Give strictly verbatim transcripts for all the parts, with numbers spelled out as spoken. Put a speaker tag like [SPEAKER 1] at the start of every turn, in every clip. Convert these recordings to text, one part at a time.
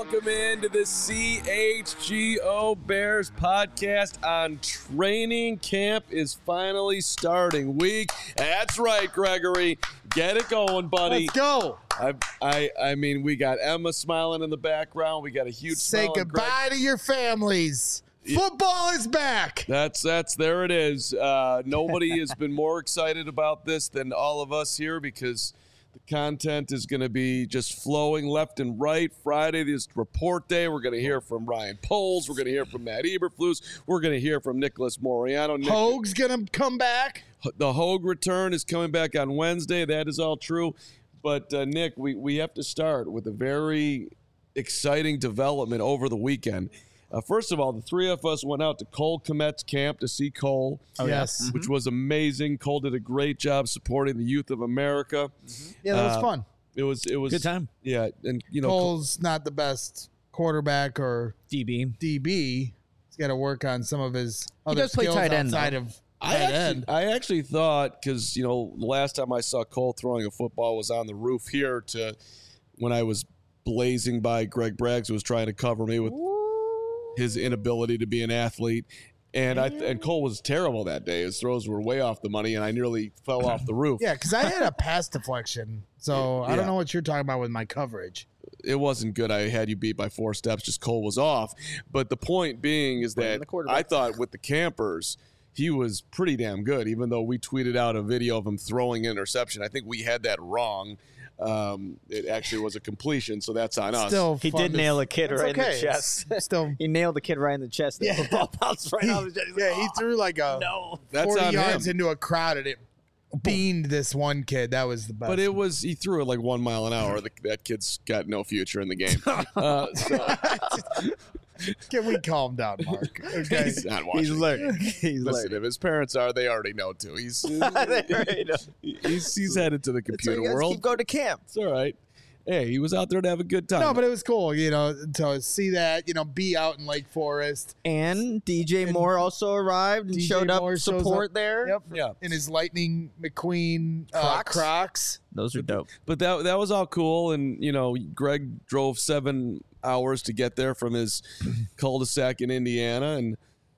[SPEAKER 1] welcome into the C H G O Bears podcast on training camp is finally starting week. That's right, Gregory. Get it going, buddy.
[SPEAKER 2] Let's go.
[SPEAKER 1] I, I, I mean, we got Emma smiling in the background. We got a huge
[SPEAKER 2] Say
[SPEAKER 1] smile.
[SPEAKER 2] goodbye to your families. Football is back.
[SPEAKER 1] That's that's there it is. Uh, nobody has been more excited about this than all of us here because the content is going to be just flowing left and right. Friday is report day. We're going to hear from Ryan Poles. We're going to hear from Matt Eberflus. We're going to hear from Nicholas Moriano. Nick-
[SPEAKER 2] Hogue's going to come back.
[SPEAKER 1] The Hogue return is coming back on Wednesday. That is all true. But, uh, Nick, we, we have to start with a very exciting development over the weekend. Uh, first of all, the three of us went out to Cole Kmet's camp to see Cole.
[SPEAKER 2] Oh, yes.
[SPEAKER 1] Which was amazing. Cole did a great job supporting the youth of America.
[SPEAKER 2] Mm-hmm. Yeah, that was
[SPEAKER 1] uh,
[SPEAKER 2] fun.
[SPEAKER 1] It was it was
[SPEAKER 3] good time.
[SPEAKER 1] Yeah, and you know
[SPEAKER 2] Cole's not the best quarterback or
[SPEAKER 3] D B.
[SPEAKER 2] D B. He's got to work on some of his other
[SPEAKER 3] does play
[SPEAKER 2] skills
[SPEAKER 3] tight end,
[SPEAKER 2] outside
[SPEAKER 3] though.
[SPEAKER 2] of
[SPEAKER 1] I
[SPEAKER 2] tight
[SPEAKER 1] actually,
[SPEAKER 2] end.
[SPEAKER 1] I actually thought because you know the last time I saw Cole throwing a football was on the roof here to when I was blazing by Greg Braggs, who was trying to cover me with his inability to be an athlete. And I and Cole was terrible that day. His throws were way off the money, and I nearly fell off the roof.
[SPEAKER 2] Yeah, because I had a pass deflection, so I
[SPEAKER 1] Yeah.
[SPEAKER 2] don't know what you're talking about with my coverage.
[SPEAKER 1] It wasn't good. I had you beat by four steps. Just Cole was off. But the point being is that I thought with the campers, he was pretty damn good, even though we tweeted out a video of him throwing an interception. I think we had that wrong. Um, it actually was a completion, so that's on us.
[SPEAKER 2] Still,
[SPEAKER 3] He
[SPEAKER 2] fun
[SPEAKER 3] did
[SPEAKER 2] to-
[SPEAKER 3] nail a kid
[SPEAKER 2] It's
[SPEAKER 3] right
[SPEAKER 2] okay.
[SPEAKER 3] in the chest.
[SPEAKER 2] It's Still,
[SPEAKER 3] He nailed the kid right in the chest. The
[SPEAKER 2] Yeah.
[SPEAKER 3] football bounced right
[SPEAKER 2] he,
[SPEAKER 3] off his chest. He's
[SPEAKER 2] yeah,
[SPEAKER 3] like,
[SPEAKER 2] he
[SPEAKER 3] "Oh,
[SPEAKER 2] threw like a
[SPEAKER 3] no.
[SPEAKER 1] That's
[SPEAKER 2] forty
[SPEAKER 1] on
[SPEAKER 2] yards
[SPEAKER 1] him.
[SPEAKER 2] into a crowd, and it beamed this one kid. That was the best.
[SPEAKER 1] But it was he threw it like one mile an hour. The, that kid's got no future in the game. Uh, so
[SPEAKER 2] Can we calm down, Mark? Okay.
[SPEAKER 1] he's not watching.
[SPEAKER 3] He's learning. He's
[SPEAKER 1] Listen,
[SPEAKER 3] learning.
[SPEAKER 1] if his parents are, they already know too. He's
[SPEAKER 3] They already know.
[SPEAKER 1] he's, he's headed to the
[SPEAKER 3] So
[SPEAKER 1] computer
[SPEAKER 3] you guys
[SPEAKER 1] world.
[SPEAKER 3] keep going to camp.
[SPEAKER 1] It's all right. Hey, he was out there to have a good time.
[SPEAKER 2] No, but it was cool, you know, to see that, you know, be out in Lake Forest.
[SPEAKER 3] And D J
[SPEAKER 2] And
[SPEAKER 3] Moore also arrived and
[SPEAKER 2] D J
[SPEAKER 3] showed up
[SPEAKER 2] Moore shows
[SPEAKER 3] support
[SPEAKER 2] up.
[SPEAKER 3] there.
[SPEAKER 2] Yep.
[SPEAKER 1] Yeah.
[SPEAKER 2] In his Lightning McQueen uh,
[SPEAKER 3] Crocs.
[SPEAKER 2] Crocs.
[SPEAKER 3] Those are dope.
[SPEAKER 1] But that that was all cool, and you know, Greg drove seven hours to get there from his cul-de-sac in Indiana, and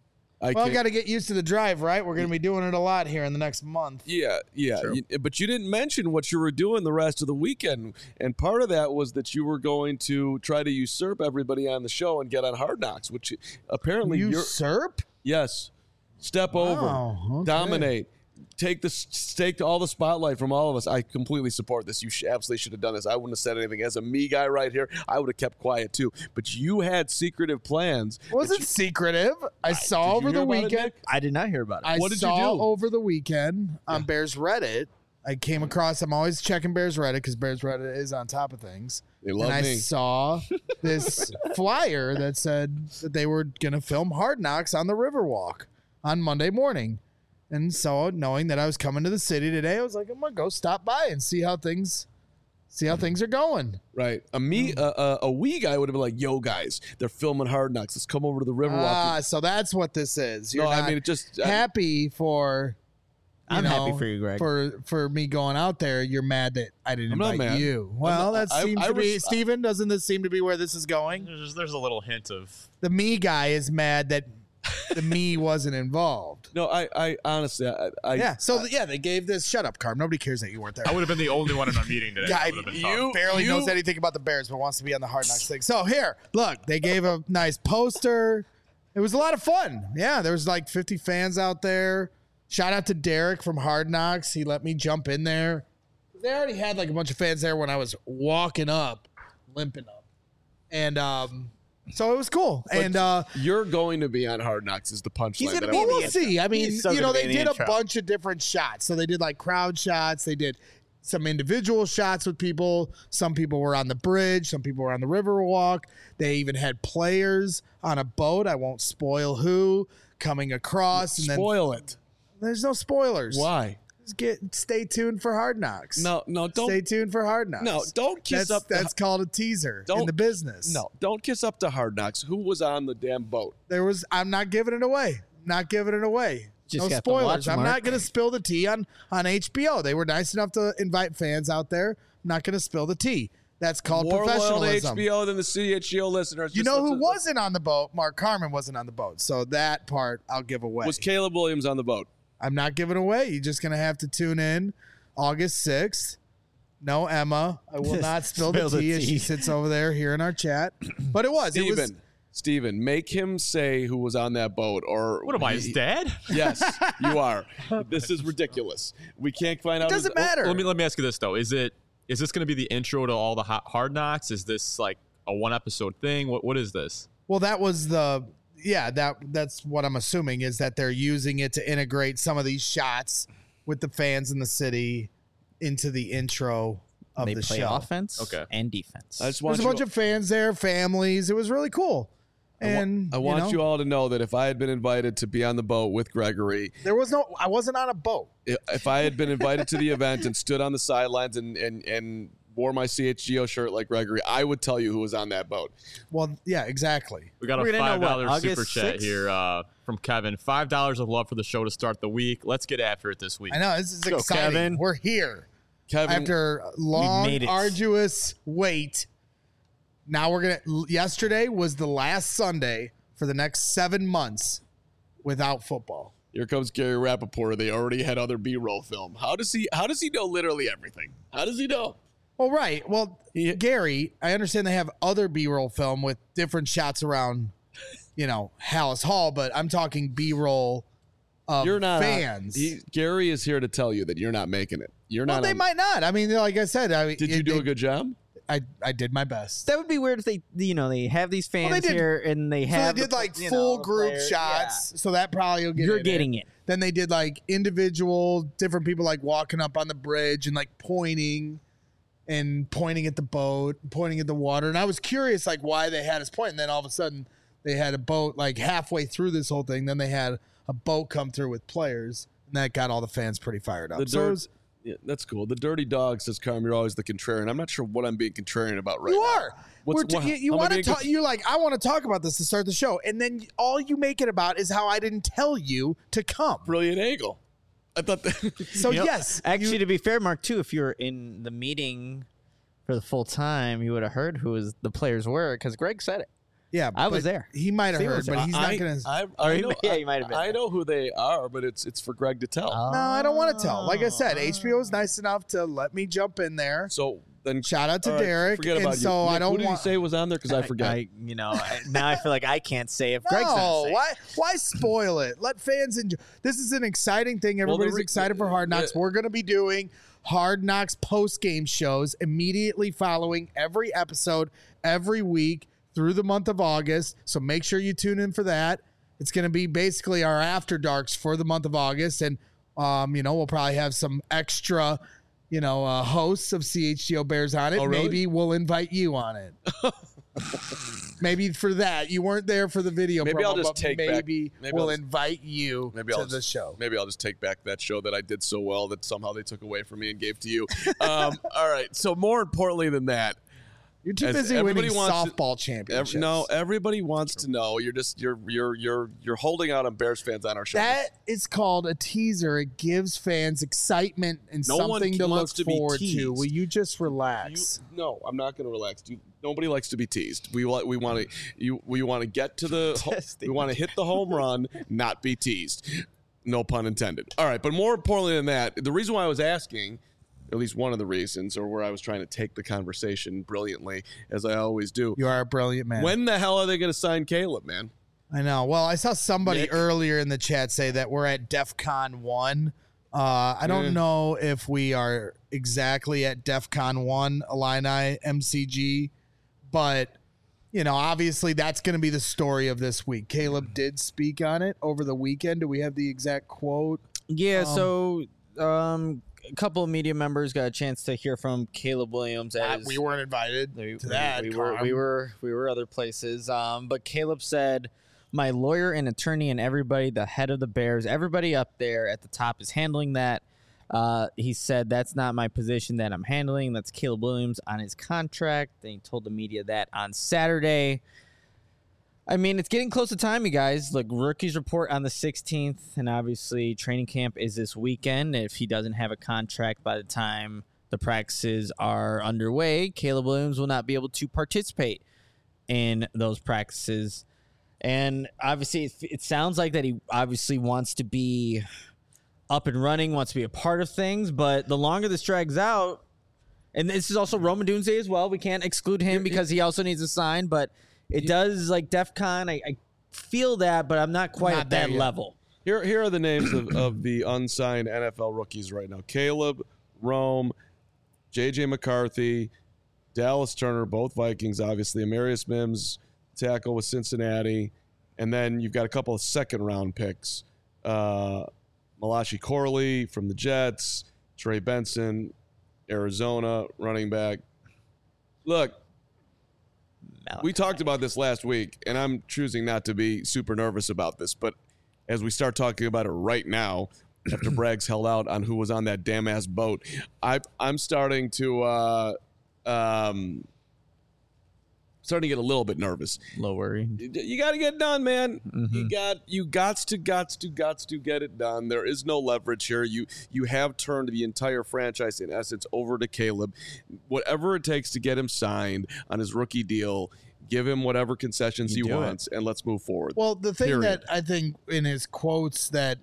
[SPEAKER 1] I
[SPEAKER 2] Well,
[SPEAKER 1] can't-
[SPEAKER 2] got to get used to the drive, right? We're going to be doing it a lot here in the next month.
[SPEAKER 1] Yeah, yeah. You- but you didn't mention what you were doing the rest of the weekend. And part of that was that you were going to try to usurp everybody on the show and get on Hard Knocks, which apparently you're.
[SPEAKER 2] Usurp?
[SPEAKER 1] Yes. Step
[SPEAKER 2] Wow,
[SPEAKER 1] over.
[SPEAKER 2] okay.
[SPEAKER 1] Dominate. Take the take all the spotlight from all of us. I completely support this. You sh- absolutely should have done this. I wouldn't have said anything. As a me guy right here, I would have kept quiet too. But you had secretive plans.
[SPEAKER 2] Was
[SPEAKER 1] that
[SPEAKER 2] it
[SPEAKER 1] you-
[SPEAKER 2] secretive? I saw
[SPEAKER 1] Did you
[SPEAKER 2] over
[SPEAKER 1] hear
[SPEAKER 2] the
[SPEAKER 1] about it,
[SPEAKER 2] weekend.
[SPEAKER 1] Nick?
[SPEAKER 3] I did not hear about it.
[SPEAKER 2] I
[SPEAKER 1] What did you
[SPEAKER 2] saw
[SPEAKER 1] do?
[SPEAKER 2] over the weekend on Bears Reddit. I came across. I'm always checking Bears Reddit because Bears Reddit is on top of things.
[SPEAKER 1] They love
[SPEAKER 2] and I
[SPEAKER 1] me.
[SPEAKER 2] saw this flyer that said that they were going to film Hard Knocks on the Riverwalk on Monday morning. And so, knowing that I was coming to the city today, I was like, I'm gonna go stop by and see how things, see how things are going.
[SPEAKER 1] Right. A me, uh, uh, a we guy would have been like, "Yo, guys, they're filming Hard Knocks. Let's come over to the Riverwalk."
[SPEAKER 2] Ah, so that's what this is. You're
[SPEAKER 1] no, I
[SPEAKER 2] not
[SPEAKER 1] mean it just. I-
[SPEAKER 2] happy for. you
[SPEAKER 3] I'm
[SPEAKER 2] know,
[SPEAKER 3] happy for you, Greg.
[SPEAKER 2] For for me going out there, you're mad that I didn't
[SPEAKER 1] I'm not
[SPEAKER 2] invite
[SPEAKER 1] mad.
[SPEAKER 2] you. Well,
[SPEAKER 1] not-
[SPEAKER 2] that
[SPEAKER 1] I-
[SPEAKER 2] seems
[SPEAKER 1] I
[SPEAKER 2] to be
[SPEAKER 1] res-
[SPEAKER 2] Steven, doesn't this seem to be where this is going?
[SPEAKER 4] There's, there's a little hint of
[SPEAKER 2] The me guy is mad that the me wasn't involved.
[SPEAKER 1] no, I, I honestly, I, I
[SPEAKER 2] Yeah. So yeah, they gave this. Shut up, Carm. Nobody cares that you weren't there.
[SPEAKER 4] I would have been the only one in our meeting today.
[SPEAKER 2] Guy,
[SPEAKER 4] It would have been
[SPEAKER 2] you
[SPEAKER 4] tough.
[SPEAKER 2] barely
[SPEAKER 1] You-
[SPEAKER 2] knows anything about the Bears, but wants to be on the Hard Knocks thing. So here, look, they gave a nice poster. It was a lot of fun. Yeah, there was like fifty fans out there. Shout out to Derek from Hard Knocks. He let me jump in there. They already had like a bunch of fans there when I was walking up, limping up, and um, so it was cool. and uh,
[SPEAKER 1] you're going to be on Hard Knocks is the punchline.
[SPEAKER 3] He's gonna
[SPEAKER 1] that
[SPEAKER 3] be
[SPEAKER 1] I
[SPEAKER 2] well,
[SPEAKER 3] in the
[SPEAKER 2] we'll see. I mean,
[SPEAKER 3] He's so
[SPEAKER 2] you know,
[SPEAKER 3] gonna
[SPEAKER 2] they
[SPEAKER 3] be in the
[SPEAKER 2] did a
[SPEAKER 3] intro.
[SPEAKER 2] bunch of different shots. So they did like crowd shots. They did some individual shots with people. Some people were on the bridge. Some people were on the Riverwalk. They even had players on a boat. I won't spoil who coming across. And then
[SPEAKER 1] Spoil it.
[SPEAKER 2] there's no spoilers.
[SPEAKER 1] Why?
[SPEAKER 2] Just get stay tuned for Hard Knocks.
[SPEAKER 1] No, no, don't.
[SPEAKER 2] Stay tuned for Hard Knocks.
[SPEAKER 1] No, don't kiss
[SPEAKER 2] that's,
[SPEAKER 1] up the-
[SPEAKER 2] That's called a teaser in
[SPEAKER 1] Don't-
[SPEAKER 2] the business.
[SPEAKER 1] No, don't kiss up to Hard Knocks. Who was on the damn boat?
[SPEAKER 2] There was. I'm not giving it away. Not giving it away.
[SPEAKER 3] Just
[SPEAKER 2] no
[SPEAKER 3] got to
[SPEAKER 2] spoilers.
[SPEAKER 3] watch,
[SPEAKER 2] I'm
[SPEAKER 3] Mark.
[SPEAKER 2] not going to spill the tea on on H B O. They were nice enough to invite fans out there. I'm not going to spill the tea. That's called
[SPEAKER 1] More loyal to
[SPEAKER 2] professionalism.
[SPEAKER 1] H B O than the C H G O listeners.
[SPEAKER 2] You
[SPEAKER 1] Just
[SPEAKER 2] know
[SPEAKER 1] let's-
[SPEAKER 2] who wasn't on the boat? Mark Carmen wasn't on the boat. So that part I'll give away.
[SPEAKER 1] Was Caleb Williams on the boat?
[SPEAKER 2] I'm not giving away. You're just going to have to tune in August sixth. No Emma. I will not spill the
[SPEAKER 3] Spill the
[SPEAKER 2] tea as she
[SPEAKER 3] tea.
[SPEAKER 2] sits over there here in our chat. But it was. It was.
[SPEAKER 1] Steven. Steven, make him say who was on that boat, or
[SPEAKER 4] What am I, his
[SPEAKER 1] he-
[SPEAKER 4] dad?
[SPEAKER 1] Yes, you are. This is ridiculous. We can't find out.
[SPEAKER 2] It doesn't
[SPEAKER 1] who's-
[SPEAKER 2] matter.
[SPEAKER 4] Let me let me ask you this though: Is it is this going to be the intro to all the hot, Hard Knocks? Is this like a one episode thing? What what is this?
[SPEAKER 2] Well, that was the. Yeah, that that's what I'm assuming is that they're using it to integrate some of these shots with the fans in the city into the intro of
[SPEAKER 3] They
[SPEAKER 2] the
[SPEAKER 3] play
[SPEAKER 2] show.
[SPEAKER 3] offense
[SPEAKER 4] Okay.
[SPEAKER 3] and defense.
[SPEAKER 1] I just want
[SPEAKER 2] There's a
[SPEAKER 1] you,
[SPEAKER 2] bunch of fans there, families. It was really cool.
[SPEAKER 1] I wa-
[SPEAKER 2] And
[SPEAKER 1] I want
[SPEAKER 2] know,
[SPEAKER 1] you all to know that if I had been invited to be on the boat with Gregory,
[SPEAKER 2] there was no. I wasn't on a boat.
[SPEAKER 1] i- if I had been invited to the event and stood on the sidelines and and and wore my C H G O shirt like Gregory, I would tell you who was on that boat.
[SPEAKER 2] Well, yeah, exactly.
[SPEAKER 4] We got
[SPEAKER 3] We're
[SPEAKER 4] a
[SPEAKER 3] gonna know
[SPEAKER 4] five
[SPEAKER 3] what,
[SPEAKER 4] dollar
[SPEAKER 3] August
[SPEAKER 4] super chat
[SPEAKER 3] sixth?
[SPEAKER 4] here uh, from Kevin. Five dollars of love for the show to start the week. Let's get after it this week.
[SPEAKER 2] I know this is
[SPEAKER 3] go,
[SPEAKER 2] exciting.
[SPEAKER 3] Kevin.
[SPEAKER 2] We're here
[SPEAKER 1] Kevin,
[SPEAKER 2] after long,
[SPEAKER 3] made it.
[SPEAKER 2] arduous wait. Now we're gonna. Yesterday was the last Sunday for the next seven months without football.
[SPEAKER 1] here comes Gary Rappaport. They already had other B-roll film. How does he? How does he know literally everything? How does he know?
[SPEAKER 2] Well, right. Well,
[SPEAKER 1] He-
[SPEAKER 2] Gary, I understand they have other B-roll film with different shots around, you know, Hallis Hall, but I'm talking B-roll of
[SPEAKER 1] You're not
[SPEAKER 2] fans.
[SPEAKER 1] He, Gary is here to tell you that you're not making it. You're
[SPEAKER 2] well,
[SPEAKER 1] not.
[SPEAKER 2] they
[SPEAKER 1] on-
[SPEAKER 2] might not. I mean, like I said, I,
[SPEAKER 1] Did you
[SPEAKER 2] it-
[SPEAKER 1] do
[SPEAKER 2] they-
[SPEAKER 1] a good job?
[SPEAKER 2] I I did my best.
[SPEAKER 3] That would be weird if they, you know, they have these fans
[SPEAKER 2] they did-
[SPEAKER 3] here and they
[SPEAKER 2] So
[SPEAKER 3] have.
[SPEAKER 2] they did
[SPEAKER 3] the-
[SPEAKER 2] like
[SPEAKER 3] you
[SPEAKER 2] full
[SPEAKER 3] know,
[SPEAKER 2] group
[SPEAKER 3] players-
[SPEAKER 2] shots, so that probably will
[SPEAKER 3] yeah.
[SPEAKER 2] get.
[SPEAKER 3] You're
[SPEAKER 2] in
[SPEAKER 3] getting it.
[SPEAKER 2] Then they did like individual, different people like walking up on the bridge and like pointing, and pointing at the boat, pointing at the water. And I was curious like why they had us point. And then all of a sudden they had a boat like halfway through this whole thing. Then they had a boat come through with players, and that got all the fans pretty fired up.
[SPEAKER 1] The
[SPEAKER 2] so it
[SPEAKER 1] dirt-
[SPEAKER 2] was,
[SPEAKER 1] Yeah, that's cool. The dirty dog says, "Carm, you're always the contrarian." I'm not sure what I'm being contrarian about right
[SPEAKER 2] you
[SPEAKER 1] now.
[SPEAKER 2] are.
[SPEAKER 1] What's-
[SPEAKER 2] We're t-
[SPEAKER 1] what-
[SPEAKER 2] you you
[SPEAKER 1] how am I
[SPEAKER 2] want to
[SPEAKER 1] being
[SPEAKER 2] talk.
[SPEAKER 1] contra-
[SPEAKER 2] You're like, I want to talk about this to start the show, and then all you make it about is how I didn't tell you to come.
[SPEAKER 1] Brilliant angle. I thought that.
[SPEAKER 2] So
[SPEAKER 3] You know,
[SPEAKER 2] yes,
[SPEAKER 3] Actually,
[SPEAKER 2] you-
[SPEAKER 3] to be fair, Mark, too, if you were in the meeting for the full time, you would have heard who was the players were because Greg said it.
[SPEAKER 2] yeah,
[SPEAKER 3] I was
[SPEAKER 2] but
[SPEAKER 3] there.
[SPEAKER 2] He might have
[SPEAKER 3] Steve
[SPEAKER 2] heard,
[SPEAKER 3] was
[SPEAKER 2] but
[SPEAKER 3] there.
[SPEAKER 2] he's
[SPEAKER 1] I,
[SPEAKER 2] not gonna.
[SPEAKER 1] I,
[SPEAKER 3] Or
[SPEAKER 1] I
[SPEAKER 3] he
[SPEAKER 1] know,
[SPEAKER 3] may- yeah, he might have been
[SPEAKER 1] I
[SPEAKER 3] there.
[SPEAKER 1] know who they are, but it's it's for Greg to tell.
[SPEAKER 2] no, I don't want to tell. Like I said, H B O is nice enough to let me jump in there.
[SPEAKER 1] So then,
[SPEAKER 2] Shout out to
[SPEAKER 1] all right,
[SPEAKER 2] Derek.
[SPEAKER 1] Forget
[SPEAKER 2] and
[SPEAKER 1] about
[SPEAKER 2] so
[SPEAKER 1] you.
[SPEAKER 2] I
[SPEAKER 1] Nick,
[SPEAKER 2] don't
[SPEAKER 1] who did
[SPEAKER 2] want.
[SPEAKER 1] he say was on there? Because I forget.
[SPEAKER 3] I, you know, I, now I feel like I can't say if Greg's
[SPEAKER 2] no,
[SPEAKER 3] not saying.
[SPEAKER 2] why? Why spoil it? Let fans enjoy. This is an exciting thing.
[SPEAKER 1] Well, the
[SPEAKER 2] Everybody's
[SPEAKER 1] re-
[SPEAKER 2] excited for Hard Knocks.
[SPEAKER 1] the-
[SPEAKER 2] We're going to be doing Hard Knocks post game shows immediately following every episode every week through the month of August. So make sure you tune in for that. It's going to be basically our after darks for the month of August, and um, you know, we'll probably have some extra. You know, uh, hosts of C H G O Bears on it.
[SPEAKER 1] Oh, really?
[SPEAKER 2] Maybe we'll invite you on it. Maybe for that. You weren't there for the video.
[SPEAKER 1] Maybe
[SPEAKER 2] promo,
[SPEAKER 1] I'll just
[SPEAKER 2] but
[SPEAKER 1] take back-
[SPEAKER 2] maybe,
[SPEAKER 1] maybe
[SPEAKER 2] we'll
[SPEAKER 1] I'll just-
[SPEAKER 2] invite you
[SPEAKER 1] Maybe
[SPEAKER 2] to
[SPEAKER 1] I'll
[SPEAKER 2] the
[SPEAKER 1] just,
[SPEAKER 2] show.
[SPEAKER 1] Maybe I'll just take back that show that I did so well that somehow they took away from me and gave to you. Um, all right. So more importantly than that,
[SPEAKER 2] You're too
[SPEAKER 1] as
[SPEAKER 2] busy
[SPEAKER 1] everybody
[SPEAKER 2] winning
[SPEAKER 1] wants to-
[SPEAKER 2] softball
[SPEAKER 1] ev-
[SPEAKER 2] championships.
[SPEAKER 1] no, everybody wants to know. You're just you're you're you're you're holding out on Bears fans on our show.
[SPEAKER 2] That is called a teaser. It gives fans excitement and
[SPEAKER 1] No one
[SPEAKER 2] something to look
[SPEAKER 1] wants to be
[SPEAKER 2] forward to.
[SPEAKER 1] teased.
[SPEAKER 2] Will you just
[SPEAKER 1] You,
[SPEAKER 2] relax?
[SPEAKER 1] no, I'm not going to relax. You, nobody likes to be teased. We want we want to you we want to get to the ho- we want to hit the home run, not be teased. No pun intended. All right, but more importantly than that, the reason why I was asking, at least one of the reasons, or where I was trying to take the conversation brilliantly, as I always do.
[SPEAKER 2] You are a brilliant man.
[SPEAKER 1] When the hell are they going to sign Caleb, man?
[SPEAKER 2] I know. Well, I saw somebody
[SPEAKER 1] Nick?
[SPEAKER 2] earlier in the chat say that we're at DEF CON one. Uh, I don't
[SPEAKER 1] Yeah.
[SPEAKER 2] know if we are exactly at DEF CON one, Illini M C G, but, you know, obviously that's going to be the story of this week. Caleb did speak on it over the weekend. Do we have the exact quote?
[SPEAKER 3] Yeah,
[SPEAKER 2] Um,
[SPEAKER 3] so um, a couple of media members got a chance to hear from Caleb Williams.
[SPEAKER 2] Uh,
[SPEAKER 3] As
[SPEAKER 2] we weren't invited
[SPEAKER 3] we,
[SPEAKER 2] to that.
[SPEAKER 3] we, were,
[SPEAKER 2] Carm.
[SPEAKER 3] we were we were other places. Um, but Caleb said, "My lawyer and attorney and everybody, the head of the Bears, everybody up there at the top is handling that." Uh, he said, "That's not my position that I'm handling. That's Caleb Williams on his contract." And he told the media that on Saturday. I mean, it's getting close to time, you guys. Like, rookies report on the sixteenth, and obviously training camp is this weekend. If he doesn't have a contract by the time the practices are underway, Caleb Williams will not be able to participate in those practices. And obviously, it, it sounds like that he obviously wants to be up and running, wants to be a part of things. But the longer this drags out, and this is also Rome Odunze as well. We can't exclude him because he also needs a sign. But it does, like DEF CON, I, I feel that, but I'm not quite
[SPEAKER 2] Not
[SPEAKER 3] at that
[SPEAKER 2] there yet.
[SPEAKER 3] level.
[SPEAKER 1] Here, here are the names of, of the unsigned N F L rookies right now. Caleb, Rome, J J McCarthy, Dallas Turner, both Vikings, obviously. Amarius Mims, tackle with Cincinnati. And then you've got a couple of second-round picks. Uh, Malachi Corley from the Jets, Trey Benson, Arizona, running back. Look, we talked about this last week, and I'm choosing not to be super nervous about this, but as we start talking about it right now, after Braggs held out on who was on that damn ass boat, I, I'm starting to uh, um, starting to get a little bit nervous.
[SPEAKER 3] Low worry.
[SPEAKER 1] You, you got to get it done, man.
[SPEAKER 3] Mm-hmm.
[SPEAKER 1] You got you gots to gots to gots to get it done. There is no leverage here. You you have turned the entire franchise in essence over to Caleb. Whatever it takes to get him signed on his rookie deal. Give him whatever concessions
[SPEAKER 3] You
[SPEAKER 1] he
[SPEAKER 3] do
[SPEAKER 1] wants, and let's move forward.
[SPEAKER 2] Well, the thing
[SPEAKER 1] Period.
[SPEAKER 2] that I think in his quotes that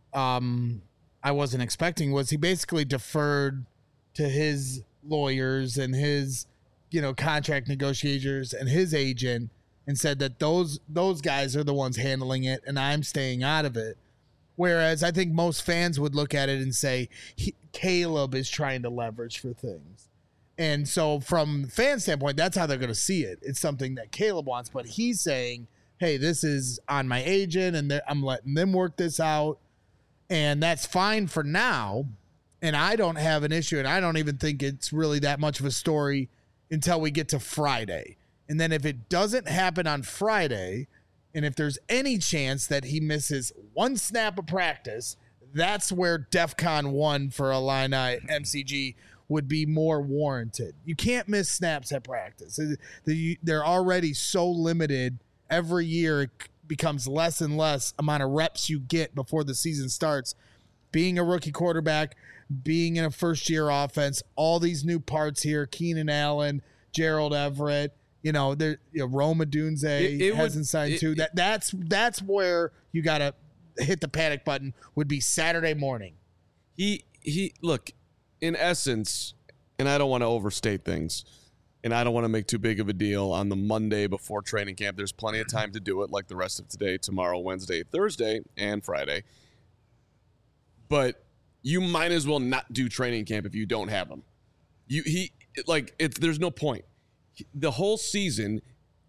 [SPEAKER 2] um, I wasn't expecting was he basically deferred to his lawyers and his, you know, contract negotiators and his agent and said that those those guys are the ones handling it and I'm staying out of it. Whereas I think most fans would look at it and say he, Caleb is trying to leverage for things. And so from fan standpoint, that's how they're going to see it. It's something that Caleb wants, but he's saying, hey, this is on my agent and I'm letting them work this out. And that's fine for now. And I don't have an issue. And I don't even think it's really that much of a story until we get to Friday. And then if it doesn't happen on Friday, and if there's any chance that he misses one snap of practice, that's where DEF CON one for Illini M C G would be more warranted. You can't miss snaps at practice. They're already so limited. Every year it becomes less and less amount of reps you get before the season starts. Being a rookie quarterback, being in a first-year offense, all these new parts here, Keenan Allen, Gerald Everett, you know, there, you know, Rome Odunze
[SPEAKER 1] It- it
[SPEAKER 2] hasn't
[SPEAKER 1] would-
[SPEAKER 2] signed
[SPEAKER 1] it-
[SPEAKER 2] too. That that's that's where you gotta hit the panic button. Would be Saturday morning.
[SPEAKER 1] He he look, in essence, and I don't want to overstate things, and I don't want to make too big of a deal on the Monday before training camp. There's plenty of time to do it, like the rest of today, tomorrow, Wednesday, Thursday, and Friday. But you might as well not do training camp if you don't have him. You he like it's there's no point. The whole season.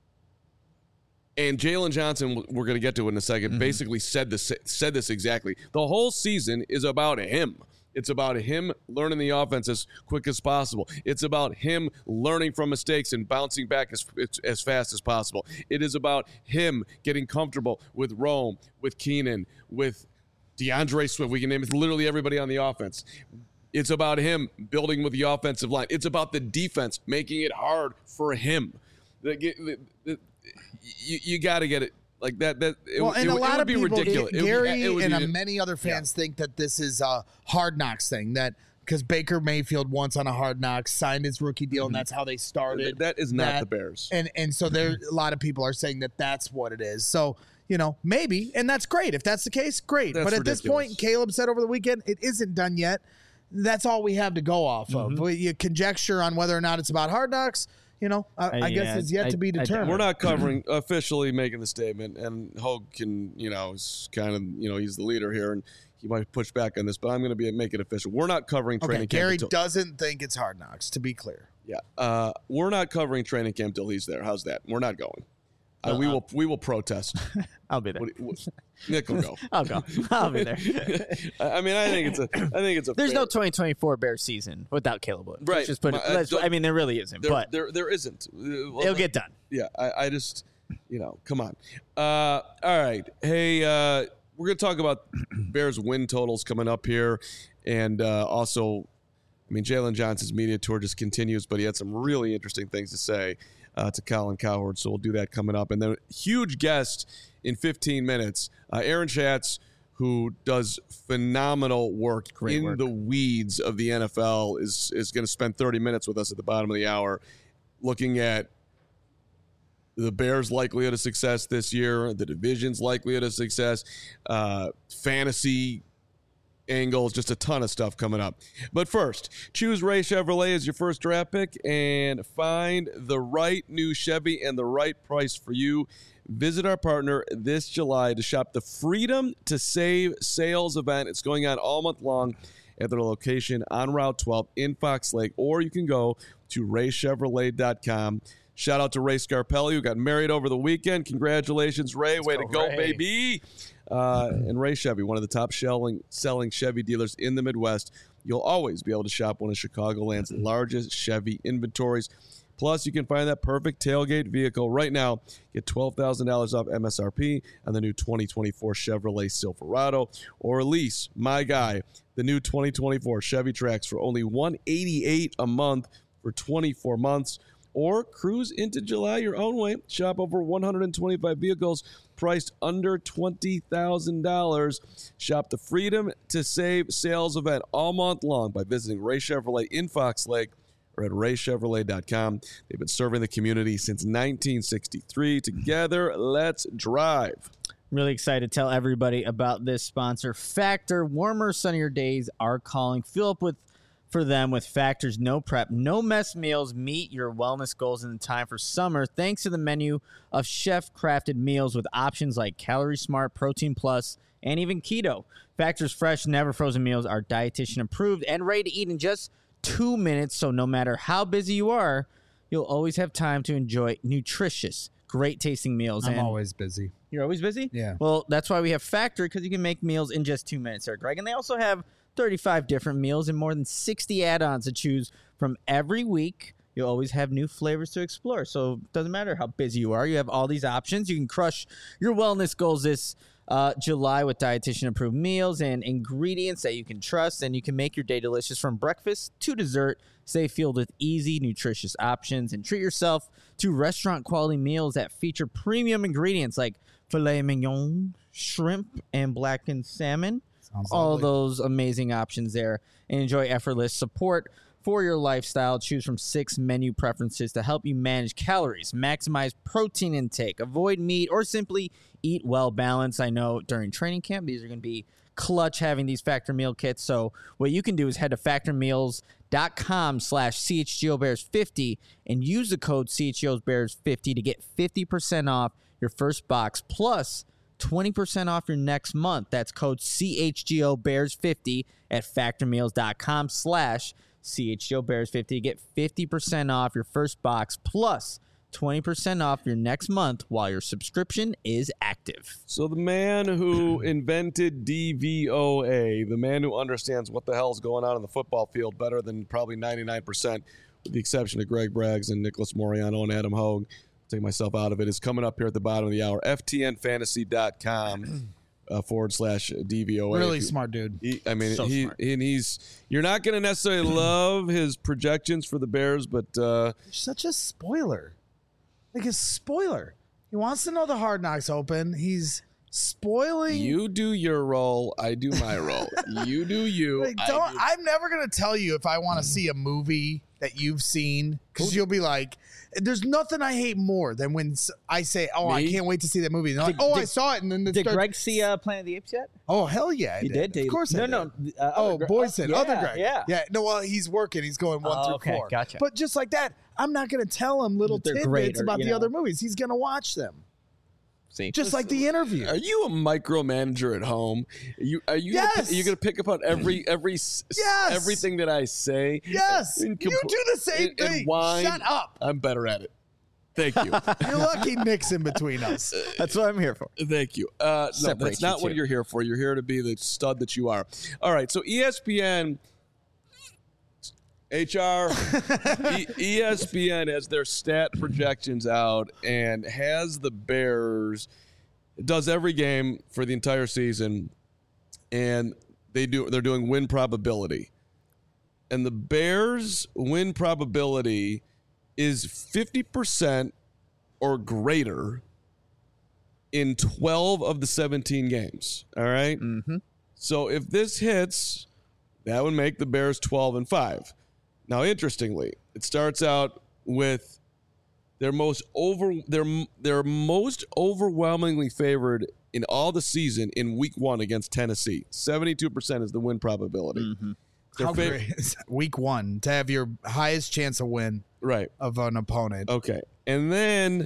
[SPEAKER 1] And Jalen Johnson, we're going to get to it in a second, mm-hmm. basically said this said this exactly. The whole season is about him. It's about him learning the offense as quick as possible. It's about him learning from mistakes and bouncing back as, as fast as possible. It is about him getting comfortable with Rome, with Keenan, with DeAndre Swift. We can name it literally everybody on the offense. It's about him building with the offensive line. It's about the defense, making it hard for him. The, the, the, you you got to get it. Like that, that it,
[SPEAKER 2] well, and
[SPEAKER 1] it,
[SPEAKER 2] a
[SPEAKER 1] it
[SPEAKER 2] lot
[SPEAKER 1] would
[SPEAKER 2] of
[SPEAKER 1] be
[SPEAKER 2] people,
[SPEAKER 1] ridiculous. It would be-
[SPEAKER 2] Gary
[SPEAKER 1] it would
[SPEAKER 2] and
[SPEAKER 1] be-
[SPEAKER 2] uh, many other fans think that this is a Hard Knocks thing. That because Baker Mayfield once on a Hard Knocks signed his rookie deal, and that's how they started.
[SPEAKER 1] that is not
[SPEAKER 2] that.
[SPEAKER 1] the Bears.
[SPEAKER 2] And and so there, a lot of people are saying that that's what it is. So you know, maybe, and that's great. If that's the case, great.
[SPEAKER 1] That's
[SPEAKER 2] but at this
[SPEAKER 1] ridiculous.
[SPEAKER 2] point, Caleb said over the weekend, it isn't done yet. That's all we have to go off
[SPEAKER 1] Mm-hmm.
[SPEAKER 2] of. We, you conjecture on whether or not it's about Hard Knocks. You know, I,
[SPEAKER 3] Uh,
[SPEAKER 2] I guess
[SPEAKER 3] yeah,
[SPEAKER 2] it's yet
[SPEAKER 3] I-
[SPEAKER 2] to be
[SPEAKER 3] I-
[SPEAKER 2] determined.
[SPEAKER 1] We're not covering officially making the statement, and Hogue can, you know, is kind of, you know, he's the leader here, and he might push back on this, but I'm going to be make it official. We're not covering training
[SPEAKER 2] okay,
[SPEAKER 1] camp.
[SPEAKER 2] Gary
[SPEAKER 1] until,
[SPEAKER 2] doesn't think it's Hard Knocks, to be clear.
[SPEAKER 1] yeah, uh, we're not covering training camp till he's there. How's that? We're not going. Uh, we
[SPEAKER 3] Uh,
[SPEAKER 1] will. We will protest.
[SPEAKER 3] I'll be there.
[SPEAKER 1] What, what, Nick will go.
[SPEAKER 3] I'll go. I'll be there.
[SPEAKER 1] I I mean, I think it's a. I think it's a.
[SPEAKER 3] There's
[SPEAKER 1] fair,
[SPEAKER 3] no twenty twenty-four Bears season without Caleb Williams.
[SPEAKER 1] Right.
[SPEAKER 3] Let's just put it.
[SPEAKER 1] My- I
[SPEAKER 3] let's-
[SPEAKER 1] don't-
[SPEAKER 3] I mean, there really isn't.
[SPEAKER 1] There,
[SPEAKER 3] but
[SPEAKER 1] there, there isn't. Uh, well,
[SPEAKER 3] it'll get done.
[SPEAKER 1] Yeah, I, I just, you know, come on. Uh, all right. Hey, uh, we're going to talk about Bears win totals coming up here. And uh, also, I mean, Jalen Johnson's media tour just continues, but he had some really interesting things to say uh, to Colin Cowherd. So we'll do that coming up. And then huge guest in fifteen minutes, uh, Aaron Schatz, who does phenomenal work
[SPEAKER 3] Great
[SPEAKER 1] in
[SPEAKER 3] work.
[SPEAKER 1] the weeds of the N F L, is is going to spend thirty minutes with us at the bottom of the hour, looking at the Bears' likelihood of success this year, the division's likelihood of success, uh, fantasy angles, just a ton of stuff coming up. But first, choose Ray Chevrolet as your first draft pick and find the right new Chevy and the right price for you. Visit our partner this July to shop the Freedom to Save sales event. It's going on all month long at their location on Route twelve in Fox Lake, or you can go to ray chevrolet dot com. Shout out to Ray Scarpelli, who got married over the weekend. Congratulations, Ray. Way to go,
[SPEAKER 3] Ray.
[SPEAKER 1] baby. Uh, and Ray Chevy, one of the top selling, selling Chevy dealers in the Midwest. You'll always be able to shop one of Chicagoland's largest Chevy inventories. Plus, you can find that perfect tailgate vehicle right now. Get twelve thousand dollars off M S R P on the new twenty twenty-four Chevrolet Silverado, or lease, my guy, the new twenty twenty-four Chevy Trax for only one hundred eighty-eight dollars a month for twenty-four months. Or cruise into July your own way. Shop over one hundred twenty-five vehicles priced under twenty thousand dollars. Shop the Freedom to Save sales event all month long by visiting Ray Chevrolet in Fox Lake or at ray chevrolet dot com. They've been serving the community since nineteen sixty-three. Together, let's drive.
[SPEAKER 3] Really excited to tell everybody about this sponsor, Factor. Warmer, sunnier days are calling. Fill up with for them with Factor's no prep, no mess meals. Meet your wellness goals in time for summer thanks to the menu of chef-crafted meals with options like Calorie Smart, Protein Plus, and even Keto. Factor's fresh, never frozen meals are dietitian approved and ready to eat in just two minutes. So no matter how busy you are, you'll always have time to enjoy nutritious, great tasting meals.
[SPEAKER 2] I'm
[SPEAKER 3] and
[SPEAKER 2] always busy.
[SPEAKER 3] You're always busy?
[SPEAKER 2] Yeah.
[SPEAKER 3] Well, that's why we have Factor, because you can make meals in just two minutes there, Greg. And they also have thirty-five different meals and more than sixty add-ons to choose from every week. You'll always have new flavors to explore. So it doesn't matter how busy you are. You have all these options. You can crush your wellness goals this uh, July with dietitian-approved meals and ingredients that you can trust. And you can make your day delicious from breakfast to dessert. Stay filled with easy, nutritious options. And treat yourself to restaurant-quality meals that feature premium ingredients like filet mignon, shrimp, and blackened salmon.
[SPEAKER 2] Sounds
[SPEAKER 3] All
[SPEAKER 2] lovely.
[SPEAKER 3] those amazing options there, and enjoy effortless support for your lifestyle. Choose from six menu preferences to help you manage calories, maximize protein intake, avoid meat, or simply eat well balanced. I know during training camp, these are going to be clutch having these Factor meal kits. So what you can do is head to factor meals dot com slash C H G O Bears fifty and use the code C H G O Bears fifty to get fifty percent off your first box plus twenty percent off your next month. That's code C H G O Bears fifty at factor meals dot com slash C H G O Bears fifty to get fifty percent off your first box plus twenty percent off your next month while your subscription is active.
[SPEAKER 1] So the man who invented D V O A, the man who understands what the hell is going on in the football field better than probably ninety-nine percent, with the exception of Greg Braggs and Nicholas Moriano and Adam Hogue, take myself out of it, is coming up here at the bottom of the hour. F T N fantasy dot com uh, forward slash D V O A.
[SPEAKER 2] Really smart dude.
[SPEAKER 1] He, I mean,
[SPEAKER 3] So
[SPEAKER 1] he
[SPEAKER 3] smart.
[SPEAKER 1] and he's. You're not going to necessarily love his projections for the Bears, but uh,
[SPEAKER 2] Such a spoiler. Like a spoiler. He wants to know the Hard Knocks Open. He's spoiling.
[SPEAKER 1] you do your role, I do my role. You do you.
[SPEAKER 2] Like,
[SPEAKER 1] I
[SPEAKER 2] don't,
[SPEAKER 1] do-
[SPEAKER 2] I'm never going to tell you if I want to see a movie that you've seen, because you'll be like, there's nothing I hate more than when s- I say, oh, I
[SPEAKER 1] Me?
[SPEAKER 2] can't wait to see that movie. And they're like,
[SPEAKER 3] Did-
[SPEAKER 2] oh, I
[SPEAKER 3] did-
[SPEAKER 2] saw it. And then it
[SPEAKER 3] Did
[SPEAKER 2] starts,
[SPEAKER 3] Greg see uh, Planet of the Apes yet?
[SPEAKER 2] oh, hell yeah. I
[SPEAKER 3] He did.
[SPEAKER 2] Of course
[SPEAKER 3] no,
[SPEAKER 2] I did.
[SPEAKER 3] no. Uh,
[SPEAKER 2] Oh,
[SPEAKER 3] other Gre-
[SPEAKER 2] Boyson,
[SPEAKER 3] uh,
[SPEAKER 2] other
[SPEAKER 3] yeah,
[SPEAKER 2] Greg.
[SPEAKER 3] Yeah.
[SPEAKER 2] Yeah. No, well, he's working. He's going one
[SPEAKER 3] Oh,
[SPEAKER 2] through
[SPEAKER 3] okay,
[SPEAKER 2] four.
[SPEAKER 3] gotcha.
[SPEAKER 2] But just like that, I'm not going to tell him little
[SPEAKER 3] That they're
[SPEAKER 2] tidbits
[SPEAKER 3] great or,
[SPEAKER 2] about
[SPEAKER 3] you
[SPEAKER 2] the
[SPEAKER 3] know.
[SPEAKER 2] other movies. He's going to watch them.
[SPEAKER 3] See,
[SPEAKER 2] Just like the interview.
[SPEAKER 1] Are you a micromanager at home? Are you are you
[SPEAKER 2] Yes.
[SPEAKER 1] gonna, are you going to pick up on every every s-
[SPEAKER 2] Yes.
[SPEAKER 1] everything that I say?
[SPEAKER 2] Yes.
[SPEAKER 1] And
[SPEAKER 2] You
[SPEAKER 1] compl-
[SPEAKER 2] do the same
[SPEAKER 1] and- and
[SPEAKER 2] thing.
[SPEAKER 1] whine?
[SPEAKER 2] Shut up.
[SPEAKER 1] I'm better at it. Thank you.
[SPEAKER 2] You're lucky Nick's in between us.
[SPEAKER 3] that's what I'm here for.
[SPEAKER 1] Thank you. Uh, no,
[SPEAKER 3] Separate
[SPEAKER 1] that's not
[SPEAKER 3] you
[SPEAKER 1] what
[SPEAKER 3] two.
[SPEAKER 1] you're here for. You're here to be the stud that you are. All right. So E S P N, H R, e- ESPN has their stat projections out and has the Bears. It does every game for the entire season, and they do. They're doing win probability, and the Bears' win probability is fifty percent or greater in twelve of the seventeen games. All right.
[SPEAKER 3] Mm-hmm.
[SPEAKER 1] So if this hits, that would make the Bears twelve and five. Now, interestingly, it starts out with their most over their their most overwhelmingly favored in all the season in week one against Tennessee. seventy-two percent is the win probability.
[SPEAKER 3] Mm-hmm.
[SPEAKER 1] Their
[SPEAKER 2] How
[SPEAKER 1] fav-
[SPEAKER 2] great is that? Week one to have your highest chance of win
[SPEAKER 1] Right.
[SPEAKER 2] of an opponent.
[SPEAKER 1] Okay. And then,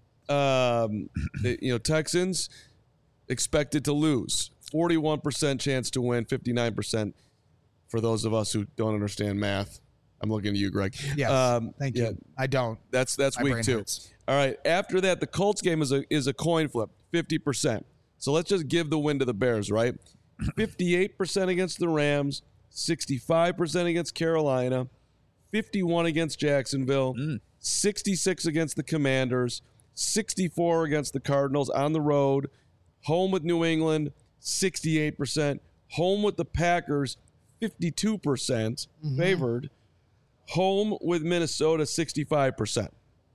[SPEAKER 1] um, the, you know, Texans expected to lose. forty-one percent chance to win, fifty-nine percent for those of us who don't understand math. I'm looking at you, Greg.
[SPEAKER 2] Yes.
[SPEAKER 1] Um,
[SPEAKER 2] Thank
[SPEAKER 1] yeah,
[SPEAKER 2] you. I don't.
[SPEAKER 1] That's that's
[SPEAKER 2] My
[SPEAKER 1] week
[SPEAKER 2] brain
[SPEAKER 1] two.
[SPEAKER 2] hurts.
[SPEAKER 1] All right. After that, the Colts game is a is a coin flip, fifty percent. So let's just give the win to the Bears, right? fifty-eight percent against the Rams, sixty-five percent against Carolina, fifty-one against Jacksonville,
[SPEAKER 3] Mm.
[SPEAKER 1] sixty-six against the Commanders, sixty-four against the Cardinals on the road, home with New England, sixty-eight percent, home with the Packers, fifty-two percent
[SPEAKER 2] Mm-hmm.
[SPEAKER 1] favored, home with Minnesota, sixty-five percent.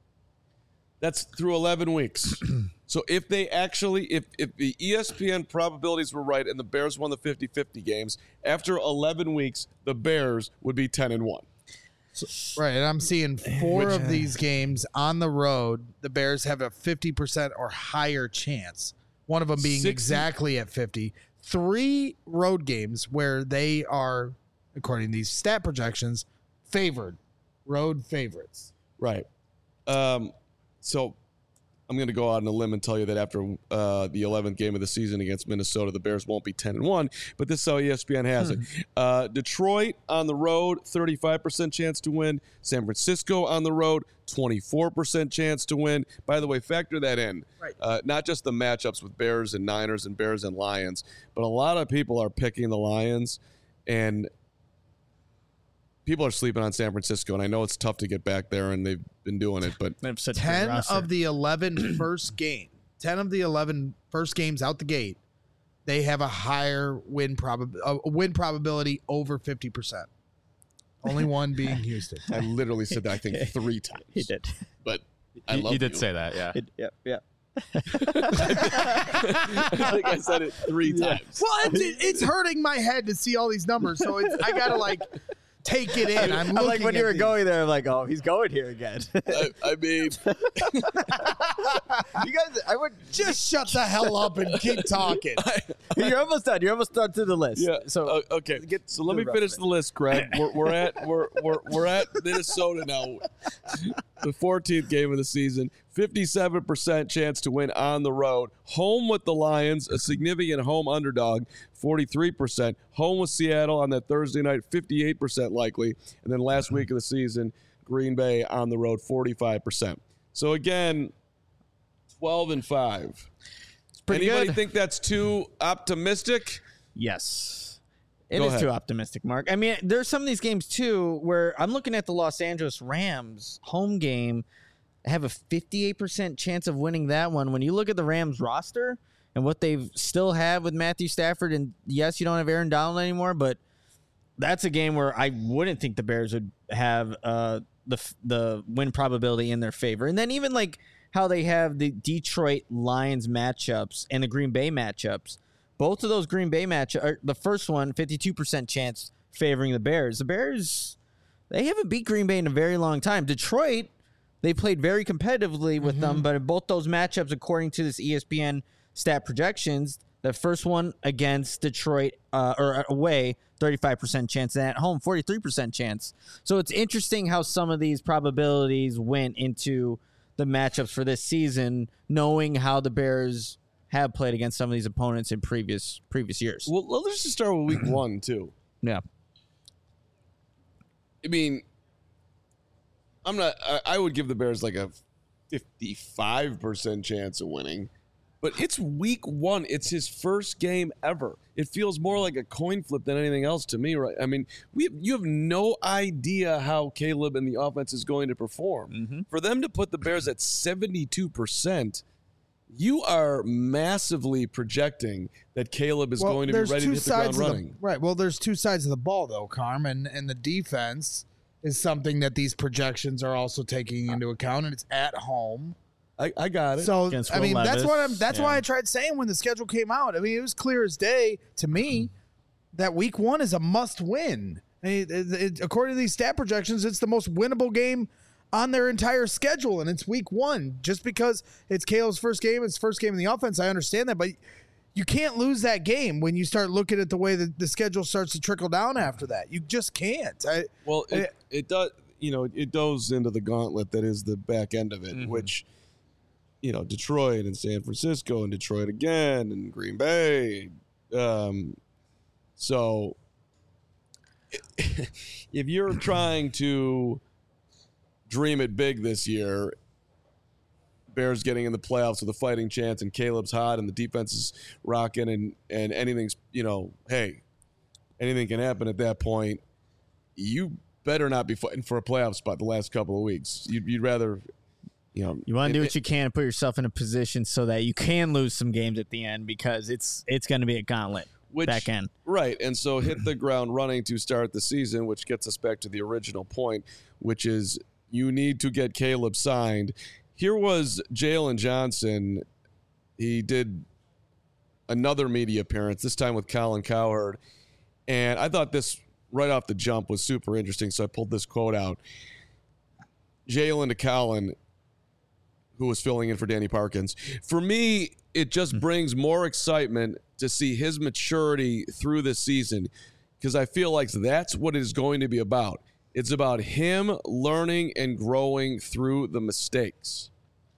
[SPEAKER 1] That's through eleven weeks. So if they actually, if, if the E S P N probabilities were right and the Bears won the fifty-fifty games, after eleven weeks, the Bears would be ten and one.
[SPEAKER 2] Right, and I'm seeing four
[SPEAKER 3] Which,
[SPEAKER 2] of
[SPEAKER 3] uh,
[SPEAKER 2] these games on the road. The Bears have a fifty percent or higher chance. One of them being
[SPEAKER 1] sixty
[SPEAKER 2] exactly at fifty. Three road games where they are, according to these stat projections, favored. Road favorites.
[SPEAKER 1] Right. Um, so I'm going to go out on a limb and tell you that after uh, the eleventh game of the season against Minnesota, the Bears won't be ten and one, but this is how E S P N has it. Uh, Detroit on the road, thirty-five percent chance to win. San Francisco on the road, twenty-four percent chance to win. By the way, factor that in.
[SPEAKER 2] Right.
[SPEAKER 1] Uh, not just the matchups with Bears and Niners and Bears and Lions, but a lot of people are picking the Lions, and people are sleeping on San Francisco, and I know it's tough to get back there, and they've been doing it, but
[SPEAKER 3] They have such a good
[SPEAKER 2] ten
[SPEAKER 3] roster.
[SPEAKER 2] of the eleven first game, ten of the eleven first games out the gate, they have a higher win prob a win probability over fifty percent. Only one being Houston.
[SPEAKER 1] I literally said that I think three times.
[SPEAKER 3] He did.
[SPEAKER 1] But I
[SPEAKER 4] You,
[SPEAKER 1] love
[SPEAKER 4] you did
[SPEAKER 1] you.
[SPEAKER 4] say that, yeah.
[SPEAKER 3] It, yeah, yeah.
[SPEAKER 1] I think I said it three times.
[SPEAKER 2] Well, it's, it's hurting my head to see all these numbers, so it's, I gotta like take it in. I'm,
[SPEAKER 3] I'm like
[SPEAKER 2] looking
[SPEAKER 3] when you
[SPEAKER 2] at
[SPEAKER 3] were
[SPEAKER 2] these.
[SPEAKER 3] going there, I'm like, oh, he's going here again.
[SPEAKER 1] I, I mean,
[SPEAKER 3] You guys, I would
[SPEAKER 2] Just shut the hell up and keep talking.
[SPEAKER 3] You're almost done. You're almost done through the list.
[SPEAKER 1] yeah.
[SPEAKER 3] So
[SPEAKER 1] So okay.
[SPEAKER 3] get
[SPEAKER 1] So let
[SPEAKER 3] the
[SPEAKER 1] me
[SPEAKER 3] rough
[SPEAKER 1] finish
[SPEAKER 3] of it.
[SPEAKER 1] the list, Greg. We're, we're at we're, we're we're at Minnesota now. The fourteenth game of the season. fifty-seven percent chance to win on the road. Home with the Lions, a significant home underdog, forty-three percent. Home with Seattle on that Thursday night, fifty-eight percent likely. And then last week of the season, Green Bay on the road, forty-five percent. So again, twelve and five.
[SPEAKER 3] pretty
[SPEAKER 1] Anybody
[SPEAKER 3] good.
[SPEAKER 1] think that's too optimistic?
[SPEAKER 3] Yes. It
[SPEAKER 1] Go
[SPEAKER 3] is
[SPEAKER 1] ahead.
[SPEAKER 3] too optimistic, Mark. I mean, there's some of these games too where I'm looking at the Los Angeles Rams home game. I have a fifty-eight percent chance of winning that one. When you look at the Rams roster and what they've still have with Matthew Stafford, and yes, you don't have Aaron Donald anymore, but that's a game where I wouldn't think the Bears would have uh, the f- the win probability in their favor. And then even like how they have the Detroit Lions matchups and the Green Bay matchups. Both of those Green Bay matchups, the first one, fifty-two percent chance favoring the Bears. The Bears, they haven't beat Green Bay in a very long time. Detroit, they played very competitively with them, but in both those matchups, according to this E S P N stat projections, the first one against Detroit uh, or away, thirty-five percent chance, and at home, forty-three percent chance. So it's interesting how some of these probabilities went into the matchups for this season, knowing how the Bears have played against some of these opponents in previous previous years.
[SPEAKER 1] Well, let's just start with week one, too.
[SPEAKER 3] Yeah.
[SPEAKER 1] I mean, I'm not, I, I would give the Bears like a fifty-five percent chance of winning, but it's week one. It's his first game ever. It feels more like a coin flip than anything else to me, right? I mean, we have, you have no idea how Caleb and the offense is going to perform.
[SPEAKER 3] Mm-hmm.
[SPEAKER 1] For them to put the Bears at seventy-two percent, you are massively projecting that Caleb is
[SPEAKER 2] Well,
[SPEAKER 1] going to be
[SPEAKER 2] there's
[SPEAKER 1] ready to
[SPEAKER 2] two
[SPEAKER 1] hit the ground
[SPEAKER 2] sides of the-
[SPEAKER 1] running.
[SPEAKER 2] right. Well, there's two sides of the ball, though, Carm, and, and the defense is something that these projections are also taking into account, and it's at home.
[SPEAKER 1] I, I got it.
[SPEAKER 2] So
[SPEAKER 3] Against
[SPEAKER 2] I
[SPEAKER 3] Will
[SPEAKER 2] mean, that's
[SPEAKER 3] Levis.
[SPEAKER 2] what I'm. That's
[SPEAKER 3] Yeah.
[SPEAKER 2] why I tried saying when the schedule came out. I mean, it was clear as day to me that week one is a must win. I mean, it, it, according to these stat projections, it's the most winnable game on their entire schedule, and it's week one. Just because it's Caleb's first game, it's first game in the offense, I understand that, but you can't lose that game when you start looking at the way that the schedule starts to trickle down after that. You just can't. I,
[SPEAKER 1] Well, it,
[SPEAKER 2] I-
[SPEAKER 1] it does. You know, it goes into the gauntlet that is the back end of it,
[SPEAKER 4] Mhm.
[SPEAKER 1] which, you know, Detroit and San Francisco and Detroit again and Green Bay. Um, so, if you're trying to dream it big this year, Bears getting in the playoffs with a fighting chance, and Caleb's hot, and the defense is rocking, and and anything's, you know, hey, anything can happen at that point. You better not be fighting for a playoff spot the last couple of weeks. You'd, you'd rather, you know,
[SPEAKER 3] You want to do
[SPEAKER 1] it-
[SPEAKER 3] what you can to put yourself in a position so that you can lose some games at the end, because it's it's going to be a gauntlet
[SPEAKER 1] which,
[SPEAKER 3] back end.
[SPEAKER 1] right? And so hit the ground running to start the season, which gets us back to the original point, which is you need to get Caleb signed. Here was Jalen Johnson. He did another media appearance, this time with Colin Cowherd, and I thought this right off the jump was super interesting, so I pulled this quote out. Jalen to Colin, who was filling in for Danny Parkins. For me, it just brings more excitement to see his maturity through this season, because I feel like that's what it is going to be about. It's about him learning and growing through the mistakes.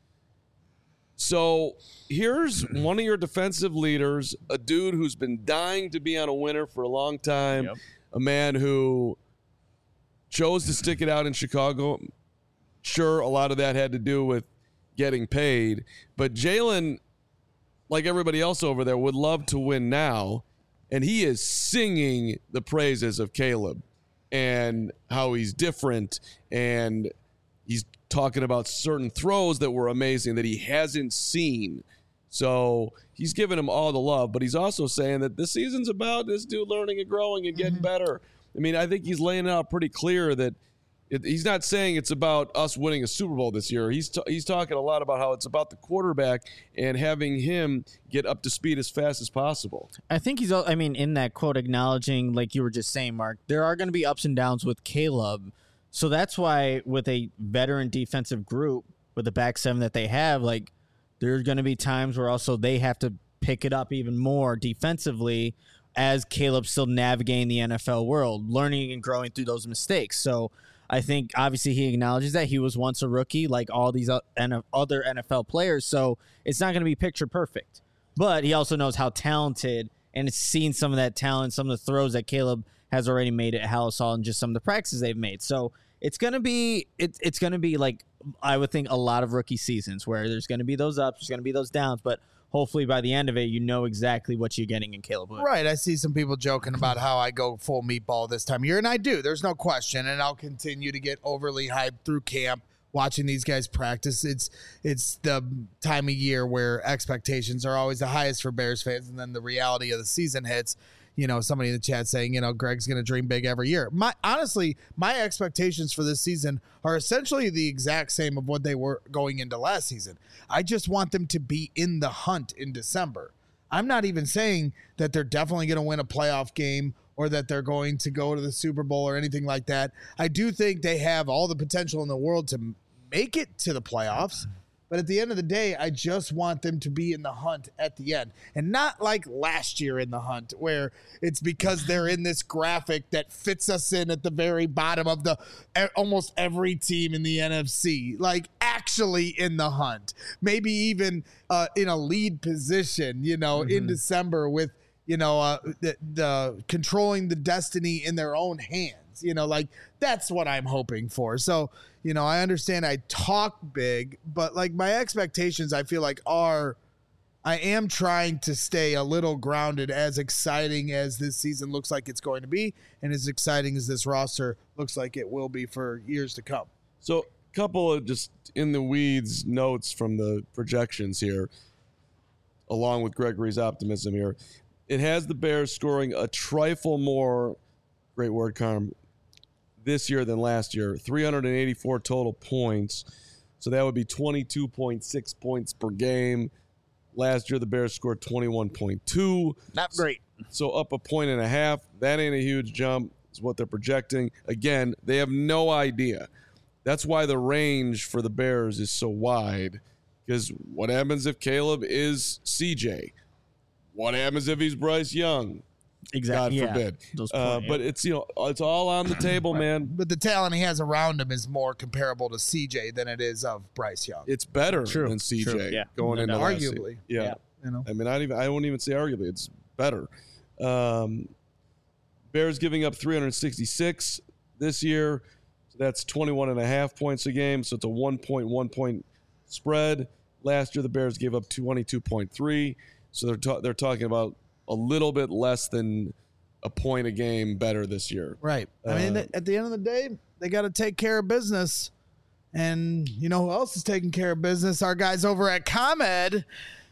[SPEAKER 1] So here's one of your defensive leaders, a dude who's been dying to be on a winner for a long time,
[SPEAKER 4] Yep.
[SPEAKER 1] a man who chose to stick it out in Chicago. Sure, a lot of that had to do with getting paid, but Jalen, like everybody else over there, would love to win now, and he is singing the praises of Caleb and how he's different, and he's talking about certain throws that were amazing that he hasn't seen. So he's giving him all the love, but he's also saying that this season's about this dude learning and growing and getting better. I mean, I think he's laying it out pretty clear that it, he's not saying it's about us winning a Super Bowl this year. He's t- he's talking a lot about how it's about the quarterback and having him get up to speed as fast as possible.
[SPEAKER 3] I think he's, al- I mean, in that quote, acknowledging, like you were just saying, Mark, there are going to be ups and downs with Caleb. So that's why with a veteran defensive group, with the back seven that they have, like, there's going to be times where also they have to pick it up even more defensively as Caleb's still navigating the N F L world, learning and growing through those mistakes. So I think obviously he acknowledges that he was once a rookie like all these other N F L players. So it's not going to be picture perfect. But he also knows how talented, and has seen some of that talent, some of the throws that Caleb has already made at Halas Hall, and just some of the practices they've made. So it's gonna be it, it's gonna be like, I would think, a lot of rookie seasons where there's gonna be those ups, there's gonna be those downs, but hopefully by the end of it, you know exactly what you're getting in Caleb Williams.
[SPEAKER 2] Right. I see some people joking about how I go full meatball this time of year, and I do. There's no question, and I'll continue to get overly hyped through camp, watching these guys practice. It's it's the time of year where expectations are always the highest for Bears fans, and then the reality of the season hits. You know, somebody in the chat saying, you know, Greg's going to dream big every year. My honestly, my expectations for this season are essentially the exact same of what they were going into last season. I just want them to be in the hunt in December. I'm not even saying that they're definitely going to win a playoff game or that they're going to go to the Super Bowl or anything like that. I do think they have all the potential in the world to make it to the playoffs. But at the end of the day, I just want them to be in the hunt at the end. And not like last year in the hunt, where it's because they're in this graphic that fits us in at the very bottom of the almost every team in the N F C. Like, actually in the hunt. Maybe even uh, in a lead position, you know, mm-hmm. in December with, you know, uh, the, the controlling the destiny in their own hands. You know, like, that's what I'm hoping for. So, you know, I understand I talk big, but like my expectations, I feel like are, I am trying to stay a little grounded, as exciting as this season looks like it's going to be, and as exciting as this roster looks like it will be for years to come.
[SPEAKER 1] So a couple of just in the weeds notes from the projections here, along with Gregory's optimism here. It has the Bears scoring a trifle more, great word, Carm, this year than last year. three hundred eighty-four total points. So that would be twenty-two point six points per game. Last year, the Bears scored twenty-one point two.
[SPEAKER 3] Not great.
[SPEAKER 1] So up a point and a half. That ain't a huge jump, is what they're projecting. Again, they have no idea. That's why the range for the Bears is so wide. Because what happens if Caleb is C J? What happens if he's Bryce Young?
[SPEAKER 3] Exactly.
[SPEAKER 1] God
[SPEAKER 3] yeah.
[SPEAKER 1] forbid.
[SPEAKER 3] Those
[SPEAKER 1] Uh,
[SPEAKER 3] point,
[SPEAKER 1] but
[SPEAKER 3] yeah.
[SPEAKER 1] it's, you know, it's all on the table, man.
[SPEAKER 2] But the talent he has around him is more comparable to C J than it is of Bryce Young.
[SPEAKER 1] It's better
[SPEAKER 3] True,
[SPEAKER 1] than C J
[SPEAKER 3] true, yeah.
[SPEAKER 1] going
[SPEAKER 3] No
[SPEAKER 1] into
[SPEAKER 3] doubt.
[SPEAKER 1] last season.
[SPEAKER 2] Arguably.
[SPEAKER 1] Yeah.
[SPEAKER 3] Yeah.
[SPEAKER 2] You know,
[SPEAKER 1] I mean, I even I won't even say arguably. It's better. Um, Bears giving up three hundred sixty-six this year. So that's twenty-one and a half points a game. So it's a one point one point spread. Last year, the Bears gave up twenty-two point three. So they're ta- they're talking about a little bit less than a point a game better this year.
[SPEAKER 2] right. I mean,
[SPEAKER 1] Uh,
[SPEAKER 2] at the end of the day, they got to take care of business. And you know who else is taking care of business? Our guys over at ComEd.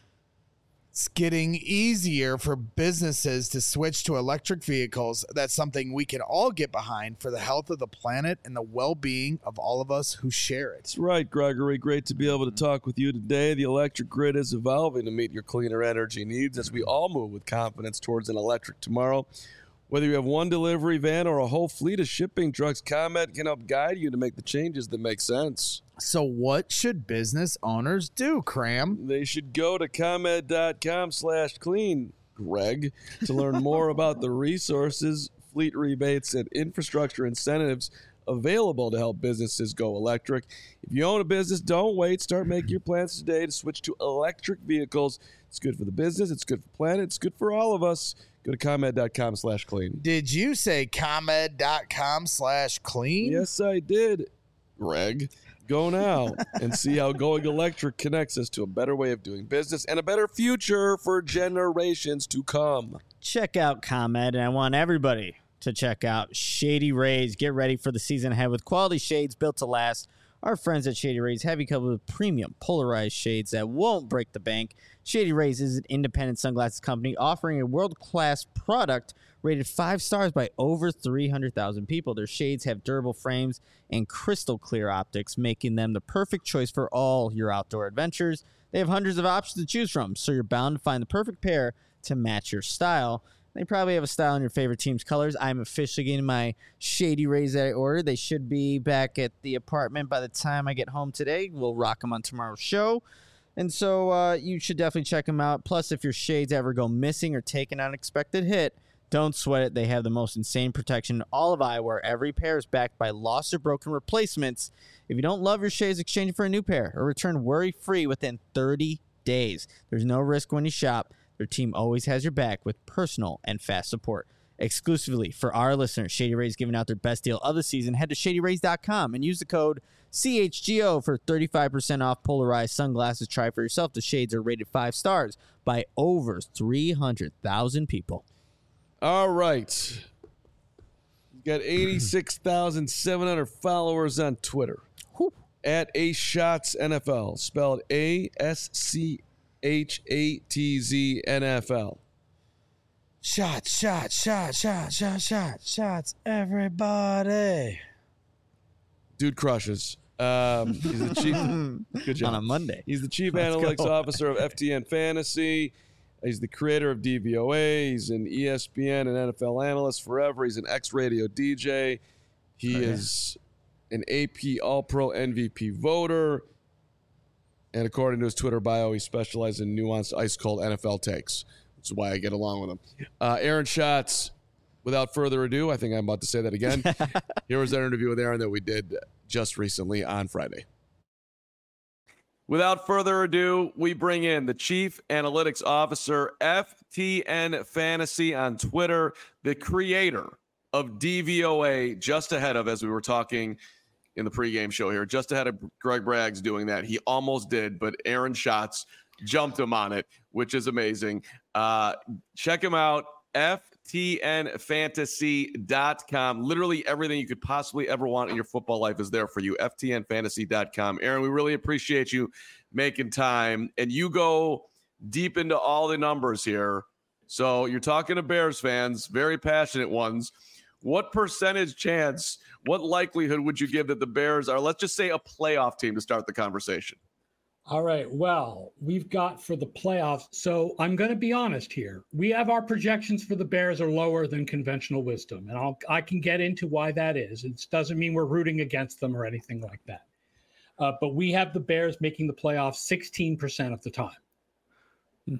[SPEAKER 2] It's getting easier for businesses to switch to electric vehicles. That's something we can all get behind for the health of the planet and the well-being of all of us who share it.
[SPEAKER 1] That's right, Gregory. Great to be able to talk with you today. The electric grid is evolving to meet your cleaner energy needs as we all move with confidence towards an electric tomorrow. Whether you have one delivery van or a whole fleet of shipping trucks, ComEd can help guide you to make the changes that make sense.
[SPEAKER 2] So what should business owners do, Cram?
[SPEAKER 1] They should go to ComEd.com slash clean, Greg, to learn more about the resources, fleet rebates, and infrastructure incentives available to help businesses go electric. If you own a business, don't wait. Start making your plans today to switch to electric vehicles. It's good for the business. It's good for the planet. It's good for all of us. Go to ComEd.com slash clean.
[SPEAKER 2] Did you say ComEd.com slash clean?
[SPEAKER 1] Yes, I did, Greg. Go now and see how going electric connects us to a better way of doing business and a better future for generations to come.
[SPEAKER 3] Check out ComEd, and I want everybody to check out Shady Rays. Get ready for the season ahead with quality shades built to last. Our friends at Shady Rays have you covered with premium polarized shades that won't break the bank. Shady Rays is an independent sunglasses company offering a world-class product rated five stars by over three hundred thousand people. Their shades have durable frames and crystal clear optics, making them the perfect choice for all your outdoor adventures. They have hundreds of options to choose from, so you're bound to find the perfect pair to match your style. They probably have a style in your favorite team's colors. I'm officially getting my Shady Rays that I ordered. They should be back at the apartment by the time I get home today. We'll rock them on tomorrow's show. And so uh, you should definitely check them out. Plus, if your shades ever go missing or take an unexpected hit, don't sweat it. They have the most insane protection in all of eyewear. Every pair is backed by lost or broken replacements. If you don't love your shades, exchange it for a new pair or return worry-free within thirty days. There's no risk when you shop. Their team always has your back with personal and fast support. Exclusively for our listeners, Shady Rays giving out their best deal of the season. Head to shady rays dot com and use the code C H G O for thirty-five percent off polarized sunglasses. Try for yourself. The shades are rated five stars by over three hundred thousand people.
[SPEAKER 1] All right. You've got eighty-six thousand seven hundred followers on Twitter.
[SPEAKER 3] Whew.
[SPEAKER 1] At A Shots N F L, spelled A S C H A T Z N F L.
[SPEAKER 2] Shots, shots, shots, shots, shots, shots, shots, everybody.
[SPEAKER 1] Dude crushes. Um, he's the chief. Good job.
[SPEAKER 3] On a Monday.
[SPEAKER 1] He's the chief
[SPEAKER 3] Let's
[SPEAKER 1] analytics
[SPEAKER 3] go.
[SPEAKER 1] officer of F T N Fantasy. He's the creator of D V O A. He's an E S P N and N F L analyst forever. He's an ex-radio D J. He
[SPEAKER 3] Oh, yeah.
[SPEAKER 1] is an A P All-Pro M V P voter. And according to his Twitter bio, he specializes in nuanced, ice-cold N F L takes, which is why I get along with him. Uh, Aaron Schatz, without further ado, I think I'm about to say that again. Here was our interview with Aaron that we did just recently on Friday. Without further ado, we bring in the Chief Analytics Officer, F T N Fantasy on Twitter, the creator of D V O A, just ahead of, as we were talking in the pregame show here, just ahead of Greg Braggs doing that. He almost did, but Aaron Schatz jumped him on it, which is amazing. Uh, check him out, F T N fantasy dot com. Literally everything you could possibly ever want in your football life is there for you, F T N fantasy dot com. Aaron, we really appreciate you making time, and you go deep into all the numbers here. So you're talking to Bears fans, very passionate ones. what percentage chance, what likelihood would you give that the Bears are, let's just say, a playoff team to start the conversation?
[SPEAKER 5] All right. Well, we've got for the playoffs. So I'm going to be honest here. We have our projections for the Bears are lower than conventional wisdom. And I'll, I can get into why that is. It doesn't mean we're rooting against them or anything like that. Uh, but we have the Bears making the playoffs sixteen percent of the time. Hmm.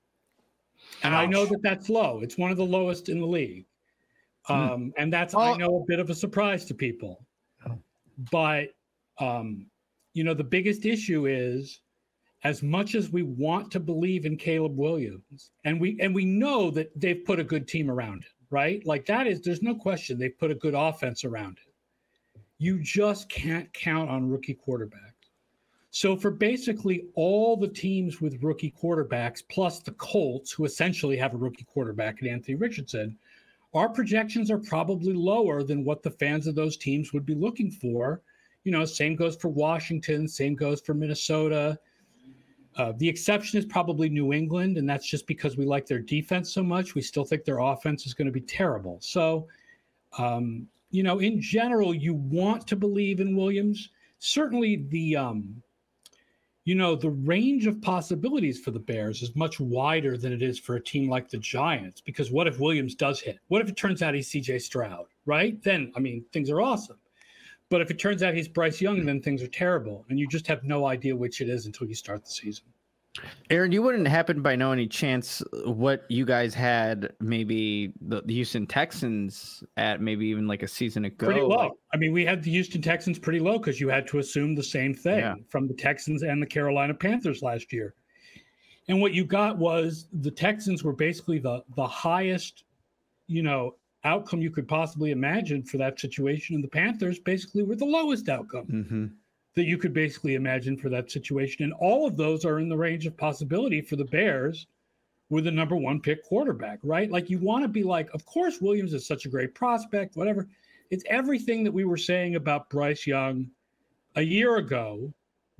[SPEAKER 5] And I know that that's low. It's one of the lowest in the league. Um, hmm. And that's, oh. I know, a bit of a surprise to people. Oh. But, um, you know, the biggest issue is, as much as we want to believe in Caleb Williams, and we and we know that they've put a good team around it, right? Like that is, there's no question they've put a good offense around it. You just can't count on rookie quarterbacks. So for basically all the teams with rookie quarterbacks, plus the Colts, who essentially have a rookie quarterback in Anthony Richardson, our projections are probably lower than what the fans of those teams would be looking for. You know, same goes for Washington, same goes for Minnesota. Uh, the exception is probably New England, and that's just because we like their defense so much. We still think their offense is going to be terrible. So, um, you know, in general, you want to believe in Williams. Certainly the, um, you know, the range of possibilities for the Bears is much wider than it is for a team like the Giants, because what if Williams does hit? What if it turns out he's C J Stroud, right? Then, I mean, things are awesome. But if it turns out he's Bryce Young, then things are terrible. And you just have no idea which it is until you start the season.
[SPEAKER 3] Aaron, you wouldn't happen by no any chance what you guys had maybe the, the Houston Texans at maybe even like a season ago?
[SPEAKER 5] Pretty low.
[SPEAKER 3] Like,
[SPEAKER 5] I mean, we had the Houston Texans pretty low because you had to assume the same thing yeah. from the Texans and the Carolina Panthers last year. And what you got was the Texans were basically the the highest, you know, outcome you could possibly imagine for that situation, and the Panthers basically were the lowest outcome mm-hmm. that you could basically imagine for that situation. And all of those are in the range of possibility for the Bears with a number one pick quarterback, right? Like you want to be like, of course, Williams is such a great prospect, whatever. It's everything that we were saying about Bryce Young a year ago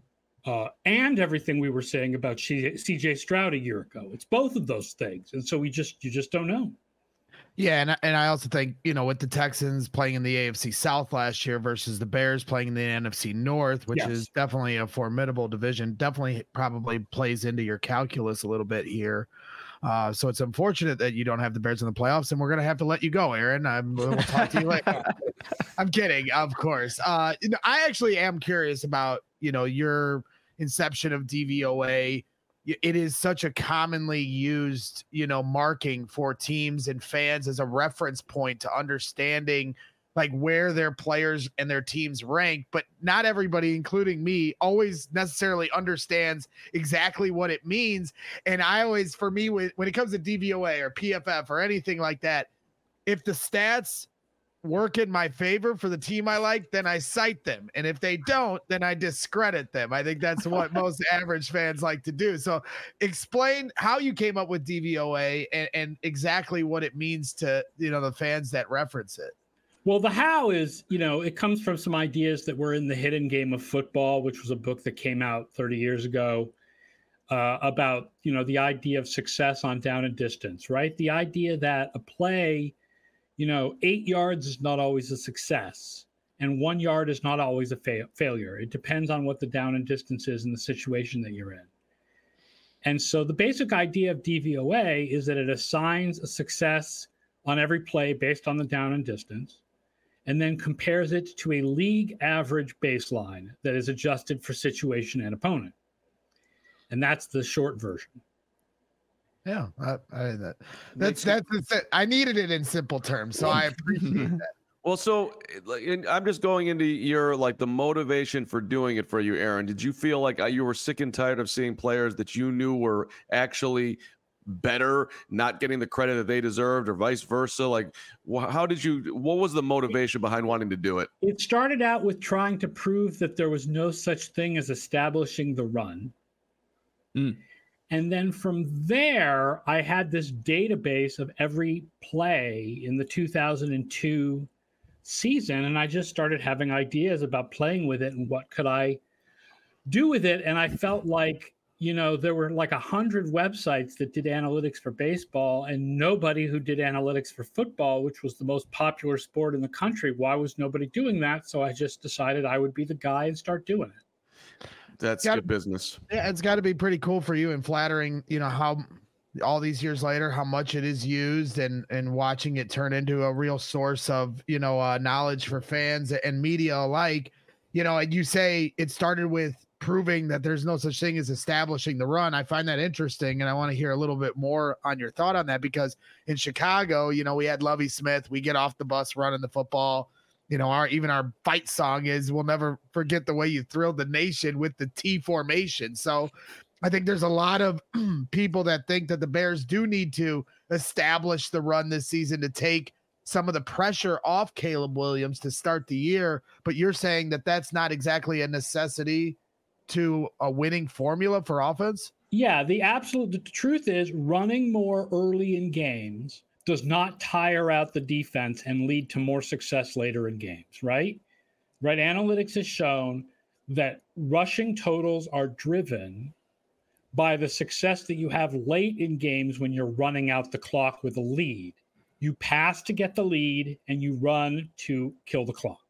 [SPEAKER 5] uh, and everything we were saying about C J Stroud a year ago. It's both of those things. And so we just, you just don't know.
[SPEAKER 2] Yeah, and and I also think, you know, with the Texans playing in the A F C South last year versus the Bears playing in the N F C North, which yes. is definitely a formidable division, definitely probably plays into your calculus a little bit here. Uh, so it's unfortunate that you don't have the Bears in the playoffs, and we're gonna have to let you go, Aaron. I'm, we'll talk to you later. I'm kidding, of course. Uh, you know, I actually am curious about, you know, your inception of D V O A. It is such a commonly used, you know, marking for teams and fans as a reference point to understanding like where their players and their teams rank, but not everybody, including me, always necessarily understands exactly what it means. And I always, for me, when it comes to D V O A or P F F or anything like that, if the stats work in my favor for the team I like, then I cite them. And if they don't, then I discredit them. I think that's what most average fans like to do. So explain how you came up with D V O A and, and exactly what it means to, you know, the fans that reference it.
[SPEAKER 5] Well, the how is, you know, it comes from some ideas that were in The Hidden Game of Football, which was a book that came out thirty years ago uh, about, you know, the idea of success on down and distance, right? The idea that a play, you know, eight yards is not always a success, and one yard is not always a fa- failure. It depends on what the down and distance is in the situation that you're in. And so the basic idea of D V O A is that it assigns a success on every play based on the down and distance, and then compares it to a league average baseline that is adjusted for situation and opponent. And that's the short version.
[SPEAKER 2] Yeah, I, I, that, that's, that's, that's, I needed it in simple terms, so I appreciate that.
[SPEAKER 1] Well, so I'm just going into your, like, the motivation for doing it for you, Aaron. Did you feel like you were sick and tired of seeing players that you knew were actually better, not getting the credit that they deserved, or vice versa? Like, how did you, what was the motivation behind wanting to do it?
[SPEAKER 5] It started out with trying to prove that there was no such thing as establishing the run. Mm. And then from there, I had this database of every play in the two thousand two season, and I just started having ideas about playing with it and what could I do with it. And I felt like, you know, there were like a hundred websites that did analytics for baseball and nobody who did analytics for football, which was the most popular sport in the country. Why was nobody doing that? So I just decided I would be the guy and start doing it.
[SPEAKER 1] That's
[SPEAKER 2] Gotta-
[SPEAKER 1] good business.
[SPEAKER 2] Yeah, it's got to be pretty cool for you and flattering, you know, how all these years later, how much it is used and and watching it turn into a real source of, you know, uh, knowledge for fans and media alike. You know, and you say it started with proving that there's no such thing as establishing the run. I find that interesting, and I want to hear a little bit more on your thought on that, because in Chicago, you know, we had Lovie Smith. We get off the bus running the football. You know, our even our fight song is "We'll never forget the way you thrilled the nation" with the T formation. So I think there's a lot of people that think that the Bears do need to establish the run this season to take some of the pressure off Caleb Williams to start the year. But you're saying that that's not exactly a necessity to a winning formula for offense?
[SPEAKER 5] Yeah, the absolute the truth is running more early in games does not tire out the defense and lead to more success later in games, right? Right. Analytics has shown that rushing totals are driven by the success that you have late in games when you're running out the clock with a lead. You pass to get the lead and you run to kill the clock.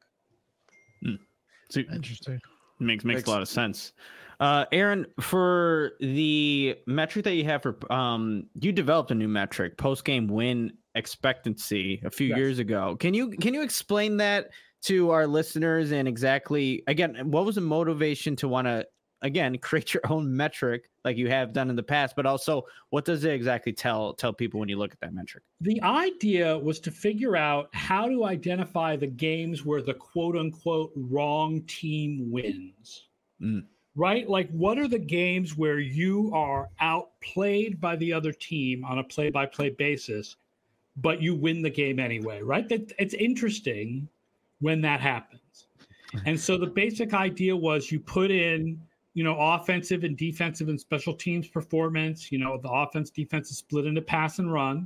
[SPEAKER 6] Hmm. So,
[SPEAKER 2] Interesting.
[SPEAKER 6] Makes, makes
[SPEAKER 1] Makes-
[SPEAKER 6] a lot of sense. Uh, Aaron, for the metric that you have for, um, you developed a new metric, post-game win expectancy, a few
[SPEAKER 5] Yes.
[SPEAKER 6] years ago. Can you can you explain that to our listeners, and exactly, again, what was the motivation to want to, again, create your own metric like you have done in the past, but also what does it exactly tell tell people when you look at that metric?
[SPEAKER 5] The idea was to figure out how to identify the games where the quote unquote wrong team wins.
[SPEAKER 6] Mm.
[SPEAKER 5] Right? Like, what are the games where you are outplayed by the other team on a play by play basis, but you win the game anyway, right? That it's interesting when that happens. And so the basic idea was you put in, you know, offensive and defensive and special teams performance, you know, the offense defense is split into pass and run,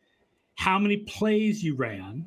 [SPEAKER 5] how many plays you ran,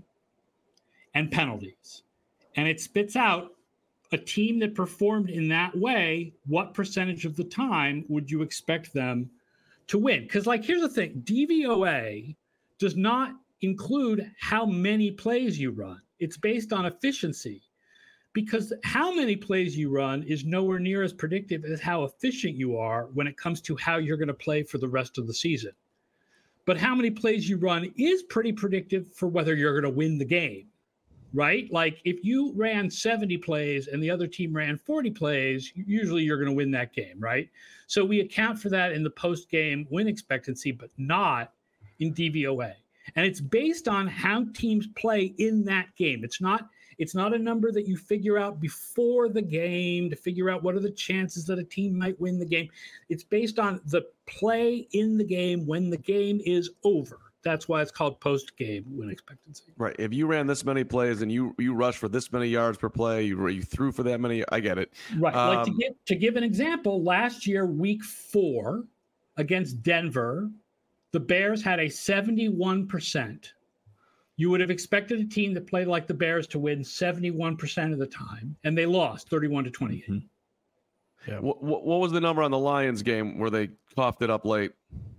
[SPEAKER 5] and penalties. And it spits out a team that performed in that way, what percentage of the time would you expect them to win? Because, like, here's the thing, D V O A does not include how many plays you run. It's based on efficiency, because how many plays you run is nowhere near as predictive as how efficient you are when it comes to how you're going to play for the rest of the season. But how many plays you run is pretty predictive for whether you're going to win the game, right? Like, if you ran seventy plays and the other team ran forty plays, usually you're going to win that game, right? So we account for that in the post-game win expectancy, but not in D V O A. And it's based on how teams play in that game. It's not It's not a number that you figure out before the game to figure out what are the chances that a team might win the game. It's based on the play in the game when the game is over. That's why it's called post-game win expectancy.
[SPEAKER 1] Right. If you ran this many plays and you you rushed for this many yards per play, you you threw for that many, I get it.
[SPEAKER 5] Right. Like, to
[SPEAKER 1] Um,
[SPEAKER 5] give to give an example, last year, week four against Denver, the Bears had a seventy-one percent. You would have expected a team that played like the Bears to win seventy-one percent of the time, and they lost thirty-one to twenty-eight.
[SPEAKER 6] Mm-hmm.
[SPEAKER 1] What, what, what was the number on the Lions game where they coughed it up late?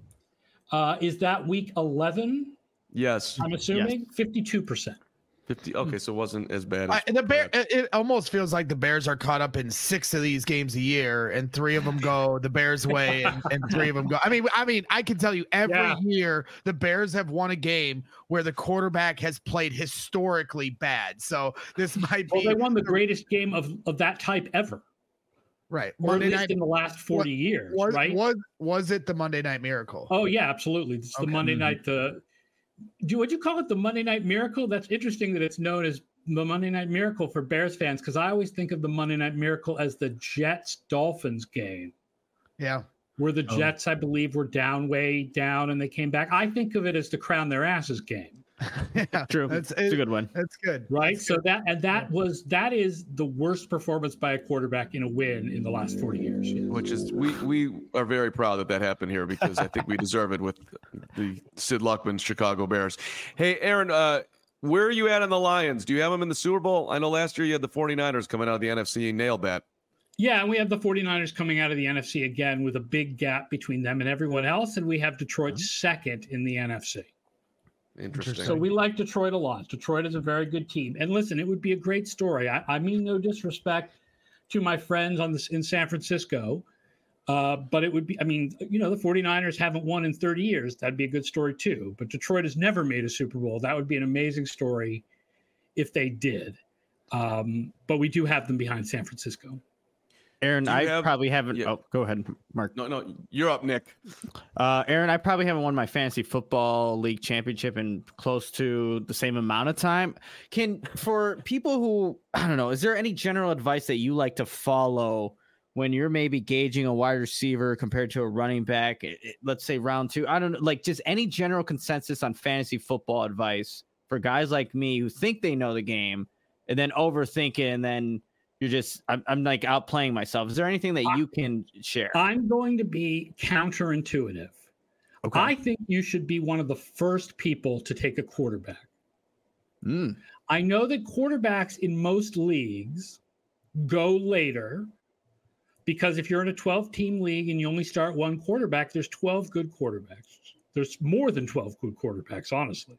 [SPEAKER 5] Uh, is that week eleven?
[SPEAKER 1] Yes.
[SPEAKER 5] I'm assuming fifty-two percent.
[SPEAKER 1] fifty. Okay, so it wasn't as bad. As
[SPEAKER 2] I, the bear, it, it almost feels like the Bears are caught up in six of these games a year, and three of them go the Bears' way, and, and three of them go. I mean, I mean, I can tell you every
[SPEAKER 5] Yeah.
[SPEAKER 2] year the Bears have won a game where the quarterback has played historically bad. So this might
[SPEAKER 5] Well,
[SPEAKER 2] be
[SPEAKER 5] they won the greatest game of, of that type ever,
[SPEAKER 2] right.
[SPEAKER 5] or
[SPEAKER 2] Monday
[SPEAKER 5] at least
[SPEAKER 2] night
[SPEAKER 5] in the last forty years,
[SPEAKER 2] was,
[SPEAKER 5] right?
[SPEAKER 2] was was it the Monday Night Miracle?
[SPEAKER 5] Oh yeah, absolutely. It's the
[SPEAKER 2] Okay.
[SPEAKER 5] Monday
[SPEAKER 6] Mhm.
[SPEAKER 5] night. The do would you call it the Monday Night Miracle? That's interesting that it's known as the Monday Night Miracle for Bears fans, because I always think of the Monday Night Miracle as the Jets Dolphins game,
[SPEAKER 2] Yeah,
[SPEAKER 5] where the
[SPEAKER 6] Oh.
[SPEAKER 5] Jets, I believe, were down way down and they came back. I think of it as the crown their asses game.
[SPEAKER 2] yeah,
[SPEAKER 6] True.
[SPEAKER 2] That's
[SPEAKER 6] It's a
[SPEAKER 2] it,
[SPEAKER 6] good one.
[SPEAKER 2] that's good.
[SPEAKER 5] Right. So that and that was that is the worst performance by a quarterback in a win in the last forty years. Yeah.
[SPEAKER 1] Which is we we are very proud that that happened here, because I think we deserve it with the Sid Luckman's Chicago Bears. Hey, Aaron, uh, where are you at on the Lions? Do you have them in the Super Bowl? I know last year you had the 49ers coming out of the N F C and nailed that.
[SPEAKER 5] Yeah, and we have the 49ers coming out of the N F C again with a big gap between them and everyone else, and we have Detroit second in the N F C.
[SPEAKER 1] Interesting.
[SPEAKER 5] So we like Detroit a lot. Detroit is a very good team. And listen, it would be a great story. I, I mean no disrespect to my friends on this in San Francisco, uh, but it would be, I mean, you know, the 49ers haven't won in thirty years. That'd be a good story too. But Detroit has never made a Super Bowl. That would be an amazing story if they did. Um, but we do have them behind San Francisco.
[SPEAKER 6] Aaron, I
[SPEAKER 1] have,
[SPEAKER 6] probably haven't.
[SPEAKER 1] yeah.
[SPEAKER 6] Oh, go ahead, Mark.
[SPEAKER 1] No, no, you're up, Nick.
[SPEAKER 6] Uh, Aaron, I probably haven't won my fantasy football league championship in close to the same amount of time. Can for people who I don't know, is there any general advice that you like to follow when you're maybe gauging a wide receiver compared to a running back? It, it, let's say round two. I don't know, like just any general consensus on fantasy football advice for guys like me who think they know the game and then overthink it and then. You're just, I'm, I'm like outplaying myself. Is there anything that you can share?
[SPEAKER 5] I'm going to be counterintuitive.
[SPEAKER 6] Okay.
[SPEAKER 5] I think you should be one of the first people to take a quarterback.
[SPEAKER 6] Mm.
[SPEAKER 5] I know that quarterbacks in most leagues go later because if you're in a twelve-team league and you only start one quarterback, there's twelve good quarterbacks. There's more than twelve good quarterbacks, honestly.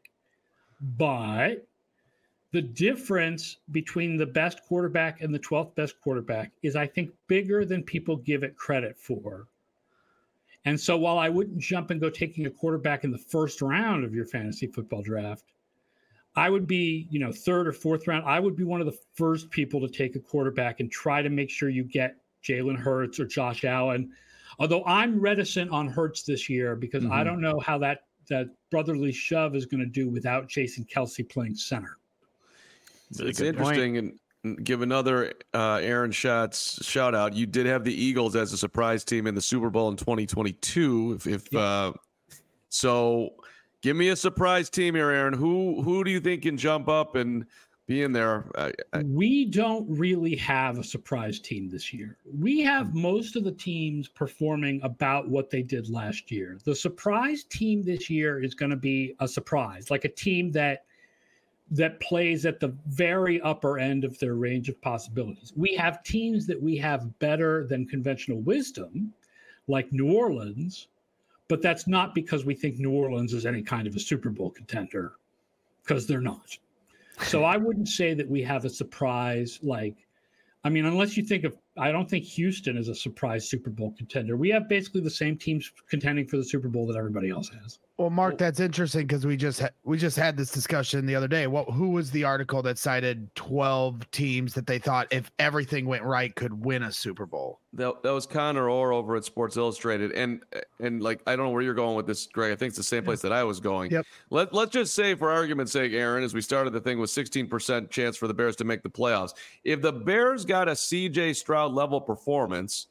[SPEAKER 5] But the difference between the best quarterback and the twelfth best quarterback is, I think, bigger than people give it credit for. And so while I wouldn't jump and go taking a quarterback in the first round of your fantasy football draft, I would be, you know, third or fourth round. I would be one of the first people to take a quarterback and try to make sure you get Jalen Hurts or Josh Allen. Although I'm reticent on Hurts this year because mm-hmm. I don't know how that, that brotherly shove is going to do without Jason Kelce playing center.
[SPEAKER 1] Really it's interesting point. And give another uh, Aaron Schatz shout out. You did have the Eagles as a surprise team in the Super Bowl in twenty twenty-two. If, if yeah. uh, so, give me a surprise team here, Aaron. Who who do you think can jump up and be in there? I, I,
[SPEAKER 5] we don't really have a surprise team this year. We have most of the teams performing about what they did last year. The surprise team this year is going to be a surprise, like a team that. that plays at the very upper end of their range of possibilities. We have teams that we have better than conventional wisdom, like New Orleans, but that's not because we think New Orleans is any kind of a Super Bowl contender, because they're not. So I wouldn't say that we have a surprise, like, I mean, unless you think of, I don't think Houston is a surprise Super Bowl contender. We have basically the same teams contending for the Super Bowl that everybody else has.
[SPEAKER 2] Well, Mark, that's interesting because we just ha- we just had this discussion the other day. What who was the article that cited twelve teams that they thought if everything went right could win a Super Bowl?
[SPEAKER 1] That, that was Connor Orr over at Sports Illustrated, and and like I don't know where you're going with this, Greg. I think it's the same place that I was going.
[SPEAKER 2] Yep.
[SPEAKER 1] Let let's just say, for argument's sake, Aaron, as we started the thing with sixteen percent chance for the Bears to make the playoffs. If the Bears got a C J Stroud level performance,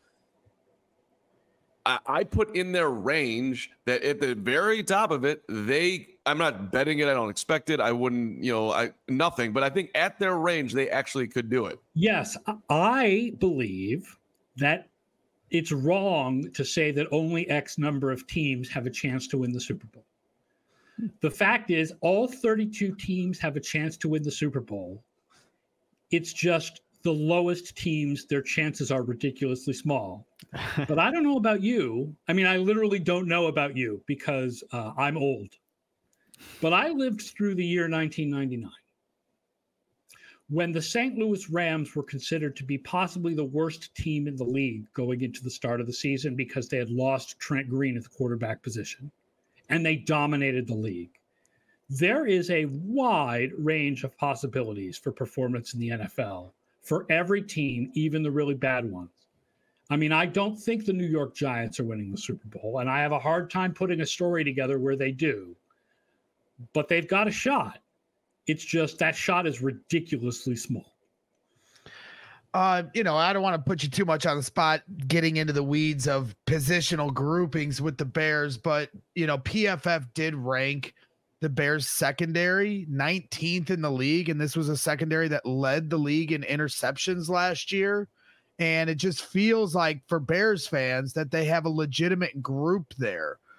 [SPEAKER 1] I put in their range that at the very top of it, they, I'm not betting it. I don't expect it. I wouldn't, you know, I nothing, but I think at their range, they actually could do it.
[SPEAKER 5] Yes. I believe that it's wrong to say that only X number of teams have a chance to win the Super Bowl. The fact is all thirty-two teams have a chance to win the Super Bowl. It's just the lowest teams, their chances are ridiculously small. But I don't know about you. I mean, I literally don't know about you because uh, I'm old. But I lived through the year nineteen ninety-nine, when the Saint Louis Rams were considered to be possibly the worst team in the league going into the start of the season because they had lost Trent Green at the quarterback position, and they dominated the league. There is a wide range of possibilities for performance in the N F L for every team, even the really bad ones. I mean, I don't think the New York Giants are winning the Super Bowl, and I have a hard time putting a story together where they do. But they've got a shot. It's just that shot is ridiculously small.
[SPEAKER 2] Uh, you know, I don't want to put you too much on the spot getting into the weeds of positional groupings with the Bears, but, you know, P F F did rank the Bears secondary nineteenth in the league, and this was a secondary that led the league in interceptions last year. And it just feels like for Bears fans that they have a legitimate group there.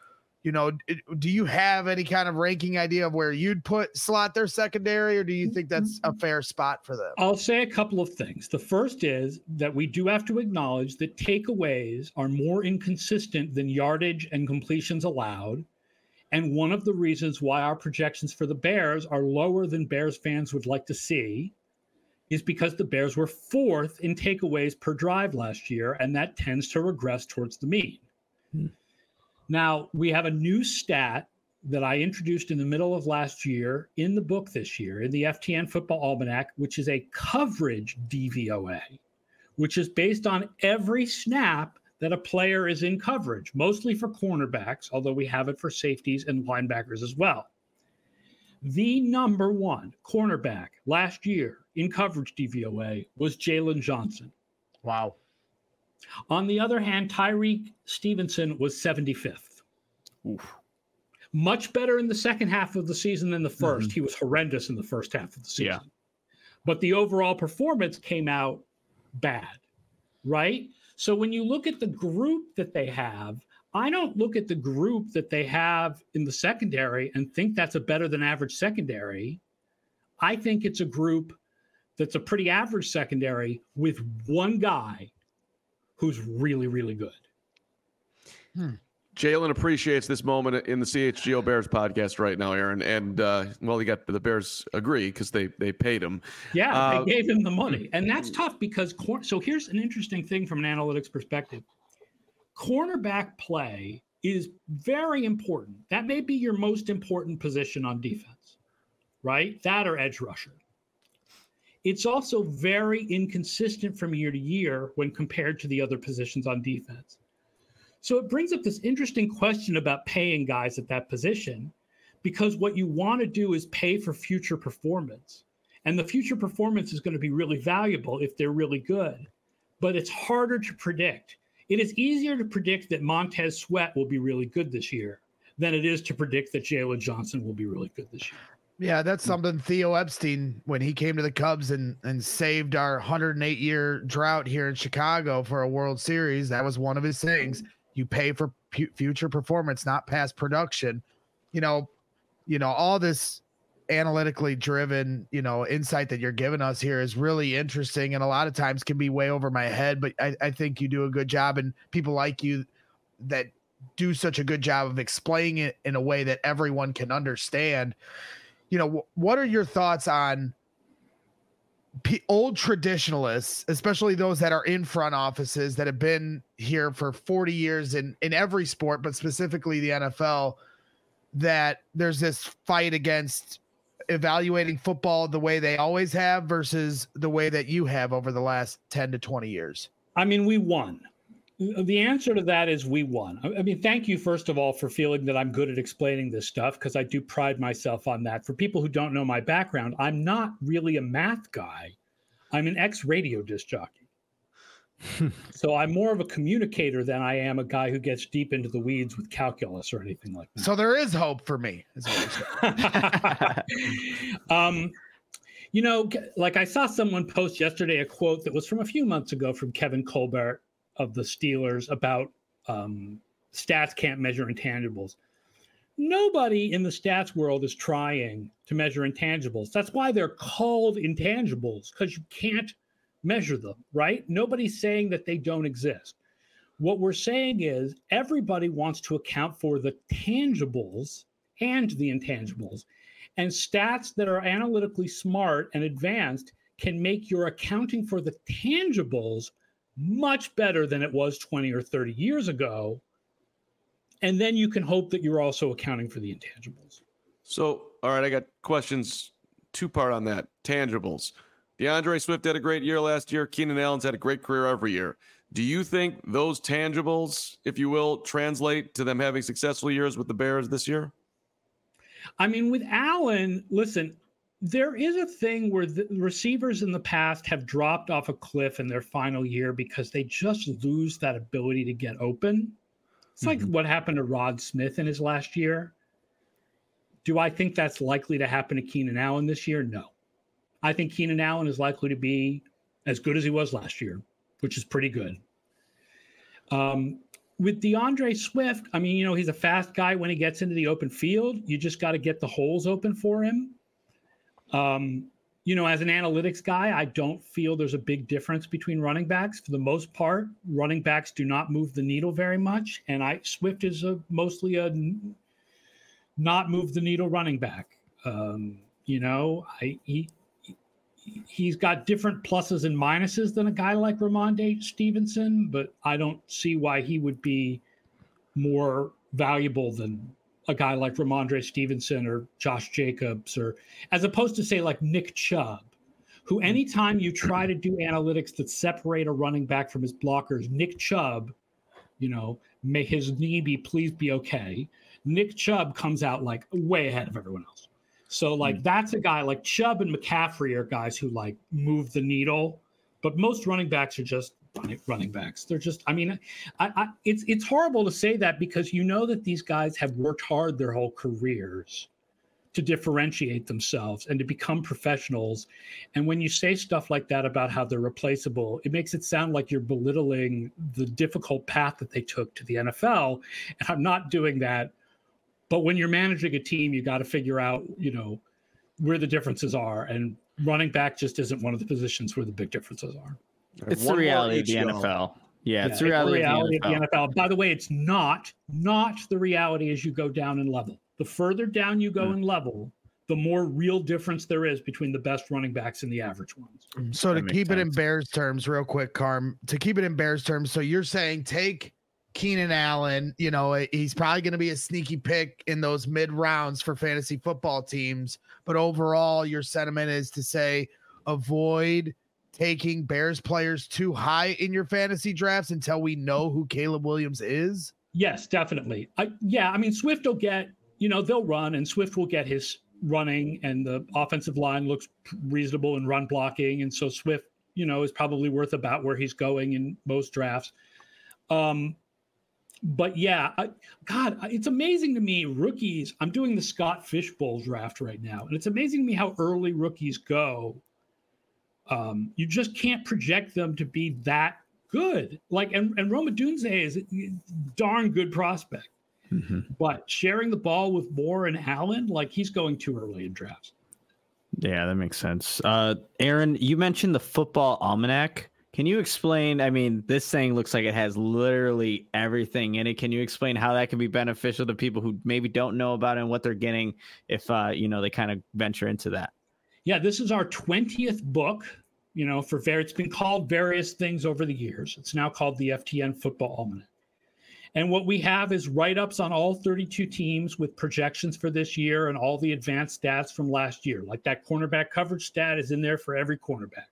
[SPEAKER 2] You know, do you have any kind of ranking idea of where you'd put slot their secondary, or do you think that's a fair spot for them?
[SPEAKER 5] I'll say a couple of things. The first is that we do have to acknowledge that takeaways are more inconsistent than yardage and completions allowed. And one of the reasons why our projections for the Bears are lower than Bears fans would like to see is because the Bears were fourth in takeaways per drive last year, and that tends to regress towards the mean. Hmm. Now, we have a new stat that I introduced in the middle of last year in the book this year, in the F T N Football Almanac, which is a coverage D V O A, which is based on every snap that a player is in coverage, mostly for cornerbacks, although we have it for safeties and linebackers as well. The number one cornerback last year in coverage D V O A was Jalen Johnson.
[SPEAKER 6] Wow.
[SPEAKER 5] On the other hand, Tyreek Stevenson was seventy-fifth.
[SPEAKER 6] Oof.
[SPEAKER 5] Much better in the second half of the season than the first.
[SPEAKER 6] Mm-hmm.
[SPEAKER 5] He was horrendous in the first half of the season.
[SPEAKER 4] Yeah.
[SPEAKER 5] But the overall performance came out bad, right? So when you look at the group that they have, I don't look at the group that they have in the secondary and think that's a better than average secondary. I think it's a group that's a pretty average secondary with one guy who's really, really good.
[SPEAKER 2] Hmm.
[SPEAKER 1] Jalen appreciates this moment in the C H G O Bears podcast right now, Aaron. And, uh, well, he got the Bears agree because they they paid him.
[SPEAKER 5] Yeah,
[SPEAKER 1] uh,
[SPEAKER 5] they gave him the money. And that's tough because cor- – so here's an interesting thing from an analytics perspective. Cornerback play is very important. That may be your most important position on defense, right? That or edge rusher. It's also very inconsistent from year to year when compared to the other positions on defense. So it brings up this interesting question about paying guys at that position, because what you want to do is pay for future performance. And the future performance is going to be really valuable if they're really good, but it's harder to predict. It is easier to predict that Montez Sweat will be really good this year than it is to predict that Jalen Johnson will be really good this year.
[SPEAKER 2] Yeah, that's something Theo Epstein, when he came to the Cubs and, and saved our one hundred eight year drought here in Chicago for a World Series, that was one of his things. You pay for pu- future performance, not past production. You know, you know, all this analytically driven, you know, insight that you're giving us here is really interesting, and a lot of times can be way over my head, but I, I think you do a good job, and people like you that do such a good job of explaining it in a way that everyone can understand. You know, w- what are your thoughts on P- old traditionalists, especially those that are in front offices that have been here for forty years in, in every sport, but specifically the N F L, that there's this fight against evaluating football the way they always have versus the way that you have over the last ten to twenty years?
[SPEAKER 5] I mean, we won. The answer to that is we won. I mean, thank you, first of all, for feeling that I'm good at explaining this stuff, because I do pride myself on that. For people who don't know my background, I'm not really a math guy. I'm an ex-radio disc jockey. So I'm more of a communicator than I am a guy who gets deep into the weeds with calculus or anything like that.
[SPEAKER 2] So there is hope for me, is what you're saying.
[SPEAKER 5] um, you know, like I saw someone post yesterday a quote that was from a few months ago from Kevin Colbert of the Steelers about um, stats can't measure intangibles. Nobody in the stats world is trying to measure intangibles. That's why they're called intangibles, because you can't measure them, right? Nobody's saying that they don't exist. What we're saying is everybody wants to account for the tangibles and the intangibles. And stats that are analytically smart and advanced can make your accounting for the tangibles much better than it was twenty or thirty years ago. And then you can hope that you're also accounting for the intangibles.
[SPEAKER 1] So, all right, I got questions, two part on that. Tangibles. DeAndre Swift had a great year last year. Keenan Allen's had a great career every year. Do you think those tangibles, if you will, translate to them having successful years with the Bears this year?
[SPEAKER 5] I mean, with Allen, listen, there is a thing where the receivers in the past have dropped off a cliff in their final year because they just lose that ability to get open. It's like mm-hmm. what happened to Rod Smith in his last year. Do I think that's likely to happen to Keenan Allen this year? No. I think Keenan Allen is likely to be as good as he was last year, which is pretty good. Um, with DeAndre Swift, I mean, you know, he's a fast guy when he gets into the open field. You just got to get the holes open for him. Um, you know, as an analytics guy, I don't feel there's a big difference between running backs. For the most part, running backs do not move the needle very much. And I Swift is a mostly a not move the needle running back. Um, you know, I he he's got different pluses and minuses than a guy like Ramondre Stevenson, but I don't see why he would be more valuable than a guy like Ramondre Stevenson or Josh Jacobs, or as opposed to say like Nick Chubb, who anytime you try to do analytics that separate a running back from his blockers, Nick Chubb, you know, may his knee be please be okay. Nick Chubb comes out like way ahead of everyone else. So like, mm. that's a guy like Chubb and McCaffrey are guys who like move the needle, but most running backs are just running, running backs. They're just, I mean, I, I, it's, it's horrible to say that because you know that these guys have worked hard their whole careers to differentiate themselves and to become professionals. And when you say stuff like that about how they're replaceable, it makes it sound like you're belittling the difficult path that they took to the N F L. And I'm not doing that. But when you're managing a team, you got to figure out, you know, where the differences are. And running back just isn't one of the positions where the big differences are.
[SPEAKER 6] It's the reality of the N F L. Yeah,
[SPEAKER 5] yeah
[SPEAKER 6] it's the reality,
[SPEAKER 5] it's the reality
[SPEAKER 6] of, the
[SPEAKER 5] of the N F L. By the way, it's not, not the reality as you go down in level. The further down you go mm. in level, the more real difference there is between the best running backs and the average ones.
[SPEAKER 2] So that to keep sense. it in Bears terms, real quick, Carm, to keep it in Bears terms, so you're saying take Keenan Allen, you know, he's probably going to be a sneaky pick in those mid rounds for fantasy football teams. But overall, your sentiment is to say avoid taking Bears players too high in your fantasy drafts until we know who Caleb Williams is.
[SPEAKER 5] Yes, definitely. I, yeah, I mean, Swift will get, you know, they'll run and Swift will get his running and the offensive line looks reasonable in run blocking. And so Swift, you know, is probably worth about where he's going in most drafts. Um, But yeah, I, God, it's amazing to me. Rookies, I'm doing the Scott Fishbowl draft right now, and it's amazing to me how early rookies go. Um, you just can't project them to be that good. Like, and, and Roma Dunze is a darn good prospect, mm-hmm. but sharing the ball with Moore and Allen, like he's going too early in drafts.
[SPEAKER 6] Yeah, that makes sense. Uh, Aaron, you mentioned the Football Almanac. Can you explain? I mean, this thing looks like it has literally everything in it. Can you explain how that can be beneficial to people who maybe don't know about it and what they're getting if, uh, you know, they kind of venture into that?
[SPEAKER 5] Yeah, this is our twentieth book, you know, for ver- it's been called various things over the years. It's now called the F T N Football Almanac. And what we have is write-ups on all thirty-two teams with projections for this year and all the advanced stats from last year. Like that cornerback coverage stat is in there for every cornerback.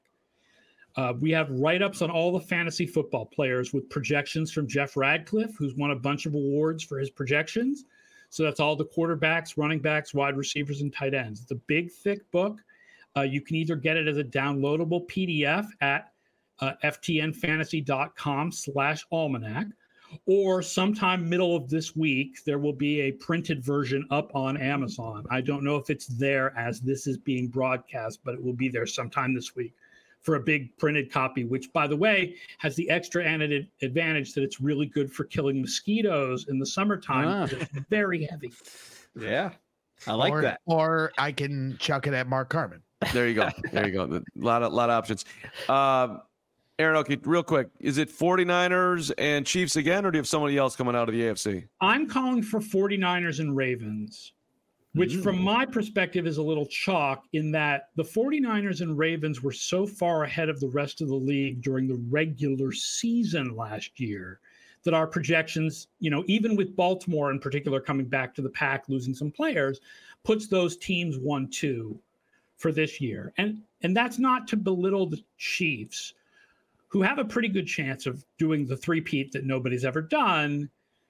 [SPEAKER 5] Uh, we have write-ups on all the fantasy football players with projections from Jeff Radcliffe, who's won a bunch of awards for his projections. So that's all the quarterbacks, running backs, wide receivers, and tight ends. It's a big, thick book. Uh, you can either get it as a downloadable P D F at uh, ftnfantasy.com slash almanac, or sometime middle of this week, there will be a printed version up on Amazon. I don't know if it's there as this is being broadcast, but it will be there sometime this week for a big printed copy, which, by the way, has the extra added advantage that it's really good for killing mosquitoes in the summertime. Ah. It's very heavy.
[SPEAKER 6] Yeah, I like
[SPEAKER 2] or,
[SPEAKER 6] that.
[SPEAKER 2] Or I can chuck it at Mark Carman.
[SPEAKER 1] There you go. There you go. A lot of, lot of options. Um, Aaron, okay, real quick. Is it 49ers and Chiefs again, or do you have somebody else coming out of the A F C?
[SPEAKER 5] I'm calling for 49ers and Ravens. Which from my perspective is a little chalk in that the 49ers and Ravens were so far ahead of the rest of the league during the regular season last year that our projections, you know, even with Baltimore in particular coming back to the pack, losing some players, puts those teams one two for this year. And and that's not to belittle the Chiefs, who have a pretty good chance of doing the three-peat that nobody's ever done.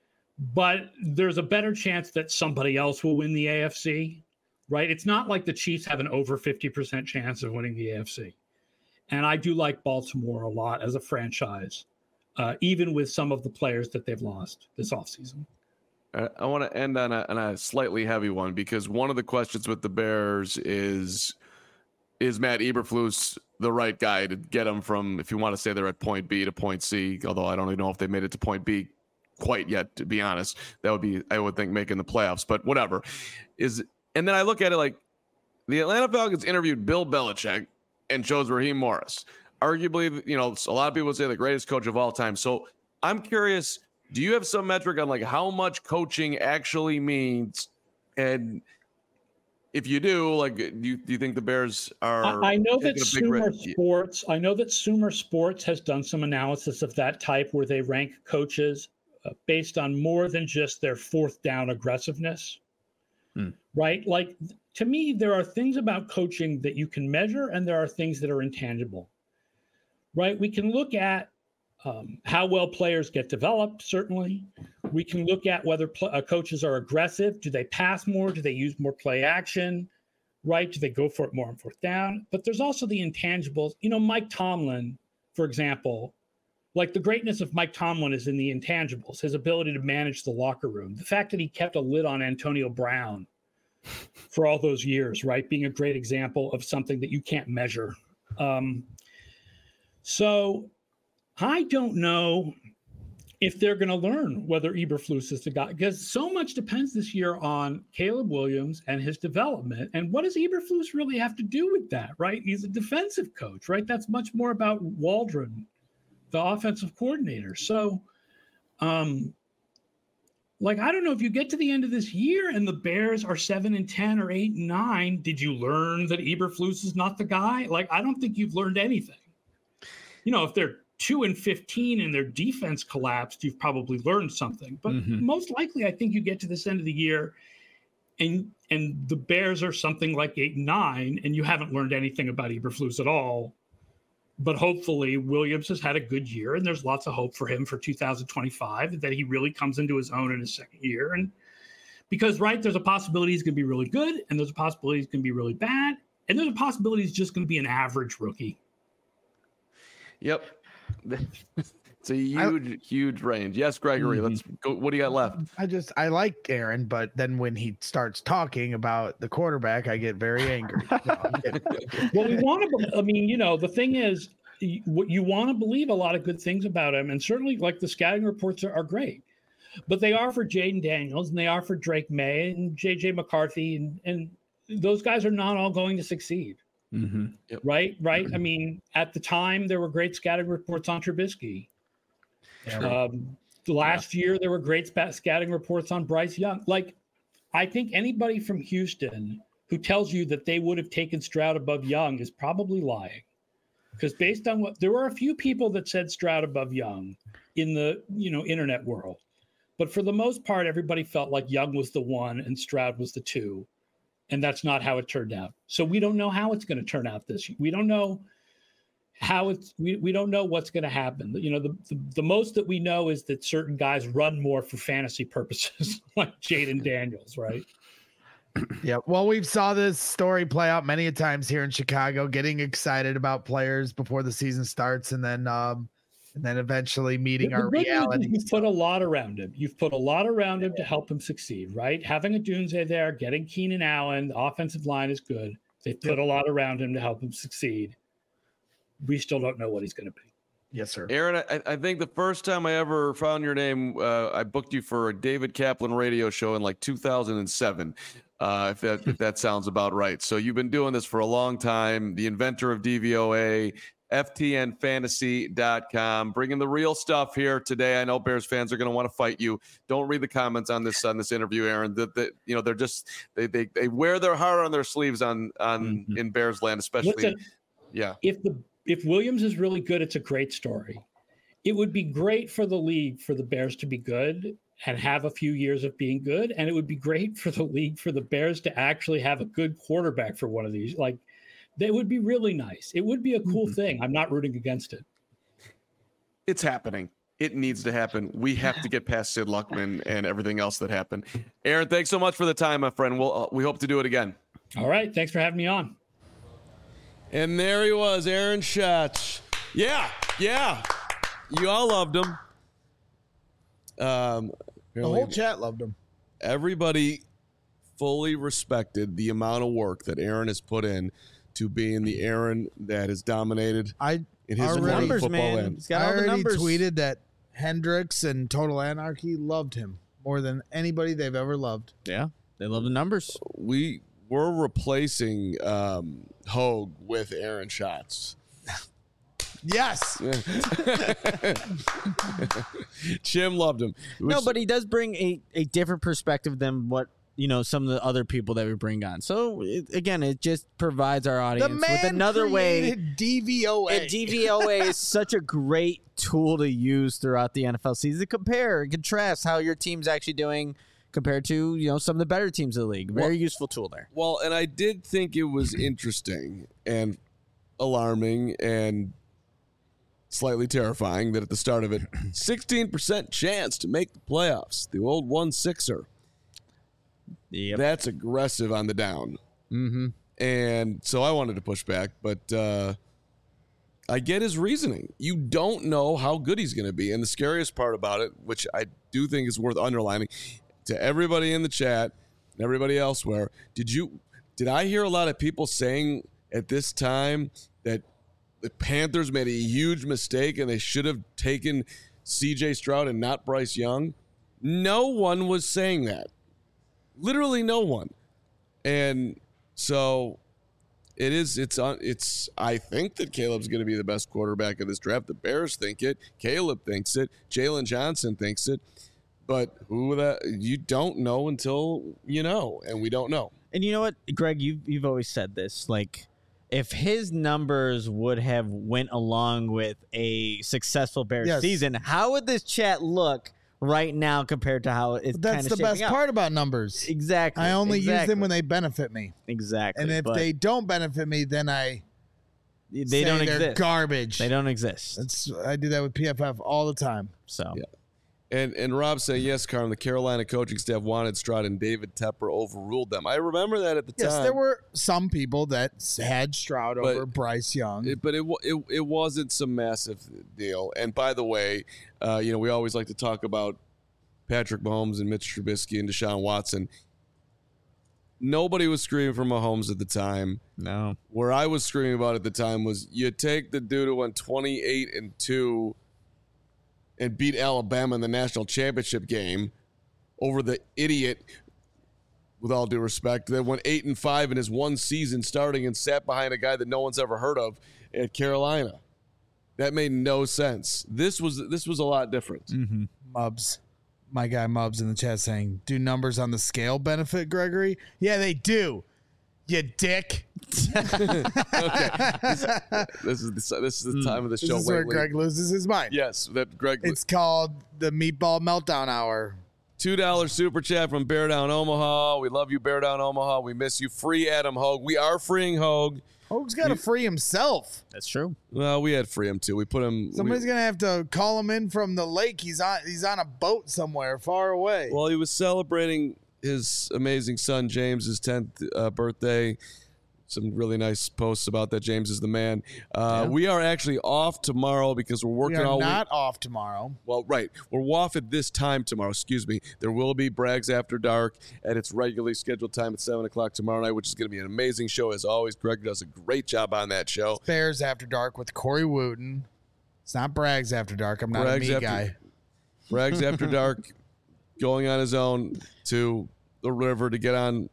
[SPEAKER 5] But there's a better chance that somebody else will win the A F C, right? It's not like the Chiefs have an over fifty percent chance of winning the A F C. And I do like Baltimore a lot as a franchise, uh, even with some of the players that they've lost this offseason.
[SPEAKER 1] I want to end on a, on a slightly heavy one, because one of the questions with the Bears is, is Matt Eberflus the right guy to get them from, if you want to say they're at point B to point C, although I don't even know if they made it to point B quite yet, to be honest. That would be, I would think, making the playoffs, but whatever. Is and then I look at it like the Atlanta Falcons interviewed Bill Belichick and chose Raheem Morris. Arguably, you know, a lot of people would say the greatest coach of all time. So I'm curious, do you have some metric on like how much coaching actually means? And if you do, like, do you, do you think the Bears are?
[SPEAKER 5] I, I know that
[SPEAKER 1] taking a big
[SPEAKER 5] Sumer
[SPEAKER 1] risk?
[SPEAKER 5] Sports. I know that Sumer Sports has done some analysis of that type, where they rank coaches uh, based on more than just their fourth down aggressiveness.
[SPEAKER 4] Hmm.
[SPEAKER 5] Right? Like, to me, there are things about coaching that you can measure, and there are things that are intangible. Right? We can look at um, how well players get developed. Certainly, we can look at whether pl- uh, coaches are aggressive. Do they pass more? Do they use more play action? Right? Do they go for it more on fourth down? But there's also the intangibles. You know, Mike Tomlin, for example, like the greatness of Mike Tomlin is in the intangibles, his ability to manage the locker room, the fact that he kept a lid on Antonio Brown for all those years, right? Being a great example of something that you can't measure. Um, so I don't know if they're going to learn whether Eberflus is the guy, because so much depends this year on Caleb Williams and his development. And what does Eberflus really have to do with that, right? He's a defensive coach, right? That's much more about Waldron, the offensive coordinator. So, um, like, I don't know, if you get to the end of this year and the Bears are seven and ten or eight and nine, did you learn that Eberflus is not the guy? Like, I don't think you've learned anything. You know, if they're two and fifteen and their defense collapsed, you've probably learned something. But
[SPEAKER 4] Mm-hmm.
[SPEAKER 5] most likely, I think you get to this end of the year and and the Bears are something like eight and nine, and you haven't learned anything about Eberflus at all. But hopefully Williams has had a good year, and there's lots of hope for him for two thousand twenty-five, that he really comes into his own in his second year. And because, right, there's a possibility he's going to be really good, and there's a possibility he's going to be really bad, and there's a possibility he's just going to be an average rookie.
[SPEAKER 1] Yep. It's a huge, I, huge range. Yes, Gregory, mm-hmm. let's go. What do you got left?
[SPEAKER 2] I just, I like Aaron, but then when he starts talking about the quarterback, I get very angry. No,
[SPEAKER 5] well, we want to, I mean, you know, the thing is, you, you want to believe a lot of good things about him. And certainly, like, the scouting reports are, are great, but they are for Jaden Daniels and they are for Drake May and J J McCarthy. And, and those guys are not all going to succeed.
[SPEAKER 4] Mm-hmm.
[SPEAKER 1] Yep.
[SPEAKER 5] Right, right. I mean, at the time, there were great scouting reports on Trubisky. Um, last yeah. year, there were great scouting reports on Bryce Young. Like, I think anybody from Houston who tells you that they would have taken Stroud above Young is probably lying. Because based on what, there were a few people that said Stroud above Young in the, you know, internet world. But for the most part, everybody felt like Young was the one and Stroud was the two. And that's not how it turned out. So we don't know how it's going to turn out this year. We don't know how it's, we, we don't know what's going to happen. You know, the, the, the most that we know is that certain guys run more for fantasy purposes, like Jaden Daniels, right?
[SPEAKER 2] Yeah. Well, we've saw this story play out many a times here in Chicago, getting excited about players before the season starts. And then, um, and then eventually meeting
[SPEAKER 5] the,
[SPEAKER 2] our
[SPEAKER 5] the good
[SPEAKER 2] reality.
[SPEAKER 5] You've put a lot around him. You've put a lot around him to help him succeed, right? Having a Dunze there, getting Keenan Allen, the offensive line is good. They put a lot around him to help him succeed. We still don't know what he's going to be.
[SPEAKER 2] Yes, sir.
[SPEAKER 1] Aaron, I, I think the first time I ever found your name, uh, I booked you for a David Kaplan radio show in like two thousand seven, uh, if that if that sounds about right. So you've been doing this for a long time, the inventor of D V O A, F T N fantasy dot com, bringing the real stuff here today. I know Bears fans are going to want to fight you. Don't read the comments on this on this interview, Aaron. That that you know they're just they they they wear their heart on their sleeves on on mm-hmm. in Bears land, especially.
[SPEAKER 5] Listen,
[SPEAKER 1] yeah.
[SPEAKER 5] If the if Williams is really good, it's a great story. It would be great for the league for the Bears to be good and have a few years of being good, and it would be great for the league for the Bears to actually have a good quarterback for one of these. Like, that would be really nice. It would be a cool mm-hmm. thing. I'm not rooting against it.
[SPEAKER 1] It's happening. It needs to happen. We have to get past Sid Luckman and everything else that happened. Aaron, thanks so much for the time, my friend. We'll uh, we hope to do it again.
[SPEAKER 5] All right. Thanks for having me on.
[SPEAKER 1] And there he was, Aaron Schatz. Yeah, yeah. You all loved him. Um,
[SPEAKER 2] the whole chat loved him.
[SPEAKER 1] Everybody fully respected the amount of work that Aaron has put in to being the Aaron that has dominated
[SPEAKER 2] I
[SPEAKER 1] in his
[SPEAKER 3] numbers,
[SPEAKER 1] football
[SPEAKER 3] man.
[SPEAKER 1] end.
[SPEAKER 3] He's got
[SPEAKER 2] I
[SPEAKER 3] all the
[SPEAKER 2] already
[SPEAKER 3] numbers.
[SPEAKER 2] tweeted that Hendricks and Total Anarchy loved him more than anybody they've ever loved.
[SPEAKER 3] Yeah, they love the numbers.
[SPEAKER 1] We we're replacing um, Hogue with Aaron Schatz.
[SPEAKER 2] Yes.
[SPEAKER 1] Jim loved him.
[SPEAKER 3] No,
[SPEAKER 1] Which-
[SPEAKER 3] but he does bring a, a different perspective than what, you know, some of the other people that we bring on. So, it, again, it just provides our
[SPEAKER 2] The
[SPEAKER 3] audience
[SPEAKER 2] man
[SPEAKER 3] with another way.
[SPEAKER 2] created D V O A.
[SPEAKER 3] And D V O A is such a great tool to use throughout the N F L season to compare and contrast how your team's actually doing compared to, you know, some of the better teams in the league. Very
[SPEAKER 1] Well-
[SPEAKER 3] useful tool there.
[SPEAKER 1] Well, and I did think it was interesting and alarming and slightly terrifying that at the start of it, sixteen percent chance to make the playoffs. The old one sixer.
[SPEAKER 3] Yep.
[SPEAKER 1] That's aggressive on the down.
[SPEAKER 3] Mm-hmm.
[SPEAKER 1] And so I wanted to push back, but uh, I get his reasoning. You don't know how good he's going to be. And the scariest part about it, which I do think is worth underlining to everybody in the chat and everybody elsewhere, did you did I hear a lot of people saying at this time that the Panthers made a huge mistake and they should have taken C J Stroud and not Bryce Young? No one was saying that. Literally no one. And so it is it's on it's I think that Caleb's going to be the best quarterback of this draft. The Bears think it, Caleb thinks it, Jalen Johnson thinks it. But who that you don't know until you know, and we don't know.
[SPEAKER 3] And you know what, Greg, you've, you've always said this, like, if his numbers would have went along with a successful Bears
[SPEAKER 2] Yes.
[SPEAKER 3] season, how would this chat look right now compared to how it's kind
[SPEAKER 2] That's
[SPEAKER 3] of
[SPEAKER 2] the best
[SPEAKER 3] up?
[SPEAKER 2] part about numbers.
[SPEAKER 3] Exactly.
[SPEAKER 2] I only use
[SPEAKER 3] exactly.
[SPEAKER 2] them when they benefit me.
[SPEAKER 3] exactly.
[SPEAKER 2] And if
[SPEAKER 3] but
[SPEAKER 2] they don't benefit me, then I
[SPEAKER 3] they
[SPEAKER 2] say
[SPEAKER 3] don't
[SPEAKER 2] they're
[SPEAKER 3] exist.
[SPEAKER 2] garbage.
[SPEAKER 3] They don't exist.
[SPEAKER 2] That's I do that with P F F all the time.
[SPEAKER 3] So
[SPEAKER 1] Yeah. And and Rob saying, yes, Carm, the Carolina coaching staff wanted Stroud and David Tepper overruled them. I remember that at the
[SPEAKER 2] Yes,
[SPEAKER 1] time.
[SPEAKER 2] there were some people that had Stroud
[SPEAKER 1] But-
[SPEAKER 2] over Bryce Young.
[SPEAKER 1] It, but it, wa- it it wasn't some massive deal. And by the way, uh, you know, we always like to talk about Patrick Mahomes and Mitch Trubisky and Deshaun Watson. Nobody was screaming for Mahomes at the time.
[SPEAKER 3] no.
[SPEAKER 1] Where I was screaming about at the time was you take the dude who went twenty-eight and two and beat Alabama in the national championship game over the idiot, with all due respect, that went eight and five in his one season starting and sat behind a guy that no one's ever heard of at Carolina. That made no sense. This was this was a lot different.
[SPEAKER 3] Mm-hmm.
[SPEAKER 2] Mubs, my guy Mubs in the chat saying, "Do numbers on the scale benefit Gregory?" Yeah, they do. You dick.
[SPEAKER 1] Okay, this, this is the, this is the time of the
[SPEAKER 2] This
[SPEAKER 1] show.
[SPEAKER 2] is where
[SPEAKER 1] lately.
[SPEAKER 2] Greg loses his mind.
[SPEAKER 1] Yes, that Greg.
[SPEAKER 2] It's called the Meatball Meltdown Hour.
[SPEAKER 1] Two dollar super chat from Bear Down Omaha. We love you, Bear Down Omaha. We miss you. Free Adam Hogue. We are freeing Hogue.
[SPEAKER 2] Hogue's got to free himself.
[SPEAKER 3] That's true.
[SPEAKER 1] Well, we had free him too. We put him.
[SPEAKER 2] Somebody's
[SPEAKER 1] we,
[SPEAKER 2] gonna have to call him in from the lake. He's on. He's on a boat somewhere far away.
[SPEAKER 1] Well, he was celebrating his amazing son James's tenth uh, birthday. Some really nice posts about that. James is the man. Uh,
[SPEAKER 3] Yeah.
[SPEAKER 1] We are actually off tomorrow because we're
[SPEAKER 2] we
[SPEAKER 1] working
[SPEAKER 2] are
[SPEAKER 1] all week.
[SPEAKER 2] not off tomorrow.
[SPEAKER 1] Well, right. We're off at this time tomorrow. Excuse me. There will be Brags After Dark at its regularly scheduled time at seven o'clock tomorrow night, which is going to be an amazing show. As always, Greg does a great job on that show.
[SPEAKER 2] Bears After Dark with Corey Wooten. It's not Brags After Dark. I'm not
[SPEAKER 1] Brags
[SPEAKER 2] a me
[SPEAKER 1] After-
[SPEAKER 2] guy.
[SPEAKER 1] Brags After Dark going on his own to the river to get on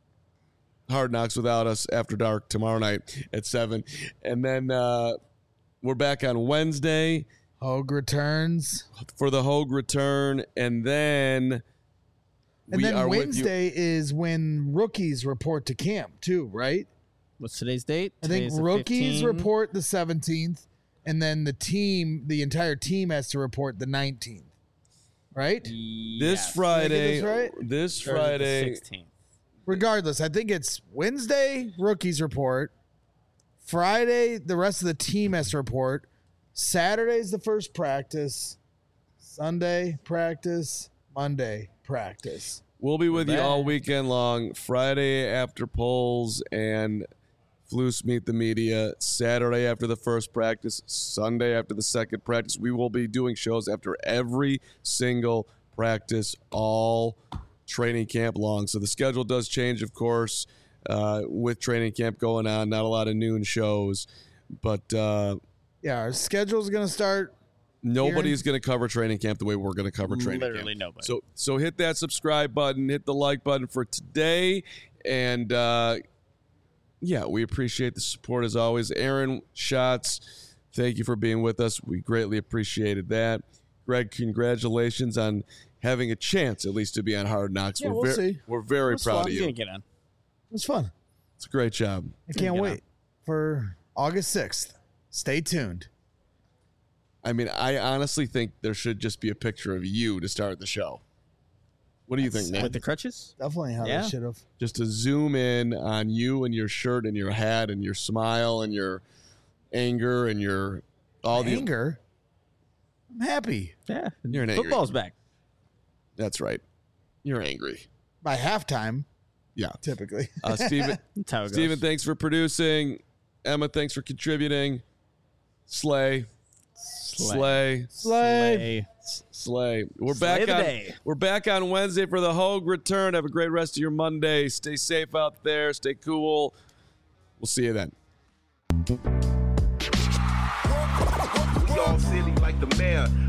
[SPEAKER 1] Hard Knocks without us after dark tomorrow night at seven. And then uh, we're back on Wednesday
[SPEAKER 2] Hogue returns.
[SPEAKER 1] for the Hogue return. And then
[SPEAKER 2] And
[SPEAKER 1] we
[SPEAKER 2] then
[SPEAKER 1] are with you.
[SPEAKER 2] Wednesday is when rookies report to camp too, right?
[SPEAKER 3] What's today's date?
[SPEAKER 2] I think
[SPEAKER 3] Today's the
[SPEAKER 2] rookies
[SPEAKER 3] fifteenth.
[SPEAKER 2] report the seventeenth, and then the team, the entire team has to report the nineteenth, right?
[SPEAKER 1] This
[SPEAKER 3] Yes.
[SPEAKER 1] Friday,
[SPEAKER 2] Did I get this right?
[SPEAKER 1] this
[SPEAKER 3] Or is it the
[SPEAKER 1] Friday,
[SPEAKER 3] sixteenth.
[SPEAKER 2] Regardless, I think it's Wednesday, rookies report. Friday, the rest of the team has to report. Saturday's the first practice. Sunday, practice. Monday, practice.
[SPEAKER 1] we'll be with you all
[SPEAKER 3] back.
[SPEAKER 1] weekend long. Friday after polls and Floose Meet the Media. Saturday after the first practice. Sunday after the second practice. We will be doing shows after every single practice all training camp long. So the schedule does change, of course, uh, with training camp going on. Not a lot of noon shows, but uh,
[SPEAKER 2] Yeah, our schedule's going to start
[SPEAKER 1] Nobody's going to cover training camp the way we're going to cover training
[SPEAKER 3] Literally
[SPEAKER 1] camp.
[SPEAKER 3] nobody.
[SPEAKER 1] So, so hit that subscribe button, hit the like button for today, and uh, yeah, we appreciate the support as always. Aaron Schatz, thank you for being with us. We greatly appreciated that. Greg, congratulations on having a chance at least to be on Hard Knocks.
[SPEAKER 2] Yeah,
[SPEAKER 1] we're
[SPEAKER 2] we'll
[SPEAKER 1] very,
[SPEAKER 2] see.
[SPEAKER 1] We're very
[SPEAKER 2] It's
[SPEAKER 1] proud
[SPEAKER 2] fun.
[SPEAKER 1] of
[SPEAKER 3] He's
[SPEAKER 1] you.
[SPEAKER 3] gonna get on.
[SPEAKER 2] It was fun.
[SPEAKER 1] It's a great job.
[SPEAKER 2] I can't
[SPEAKER 3] Get
[SPEAKER 2] wait
[SPEAKER 3] on.
[SPEAKER 2] for August sixth. Stay tuned.
[SPEAKER 1] I mean, I honestly think there should just be a picture of you to start the show. What do you think, man?
[SPEAKER 3] With the crutches?
[SPEAKER 2] Definitely how
[SPEAKER 3] Yeah.
[SPEAKER 2] they should have.
[SPEAKER 1] Just to zoom in on you and your shirt and your hat and your smile and your anger and your all the
[SPEAKER 2] Anger. I'm happy.
[SPEAKER 3] Yeah.
[SPEAKER 1] You're an angry.
[SPEAKER 3] Football's back.
[SPEAKER 1] That's right. You're angry.
[SPEAKER 2] By halftime,
[SPEAKER 1] Yeah.
[SPEAKER 2] typically.
[SPEAKER 1] Uh, Steven,
[SPEAKER 3] That's how it
[SPEAKER 1] Steven,
[SPEAKER 3] goes.
[SPEAKER 1] thanks for producing. Emma, thanks for contributing. Slay. Slay.
[SPEAKER 2] Slay.
[SPEAKER 1] Slay. We're
[SPEAKER 3] Slay
[SPEAKER 1] back
[SPEAKER 3] the
[SPEAKER 1] on
[SPEAKER 3] day.
[SPEAKER 1] We're back on Wednesday for the Hogue return. Have a great rest of your Monday. Stay safe out there. Stay cool. We'll see you then.
[SPEAKER 7] We all silly like the mayor.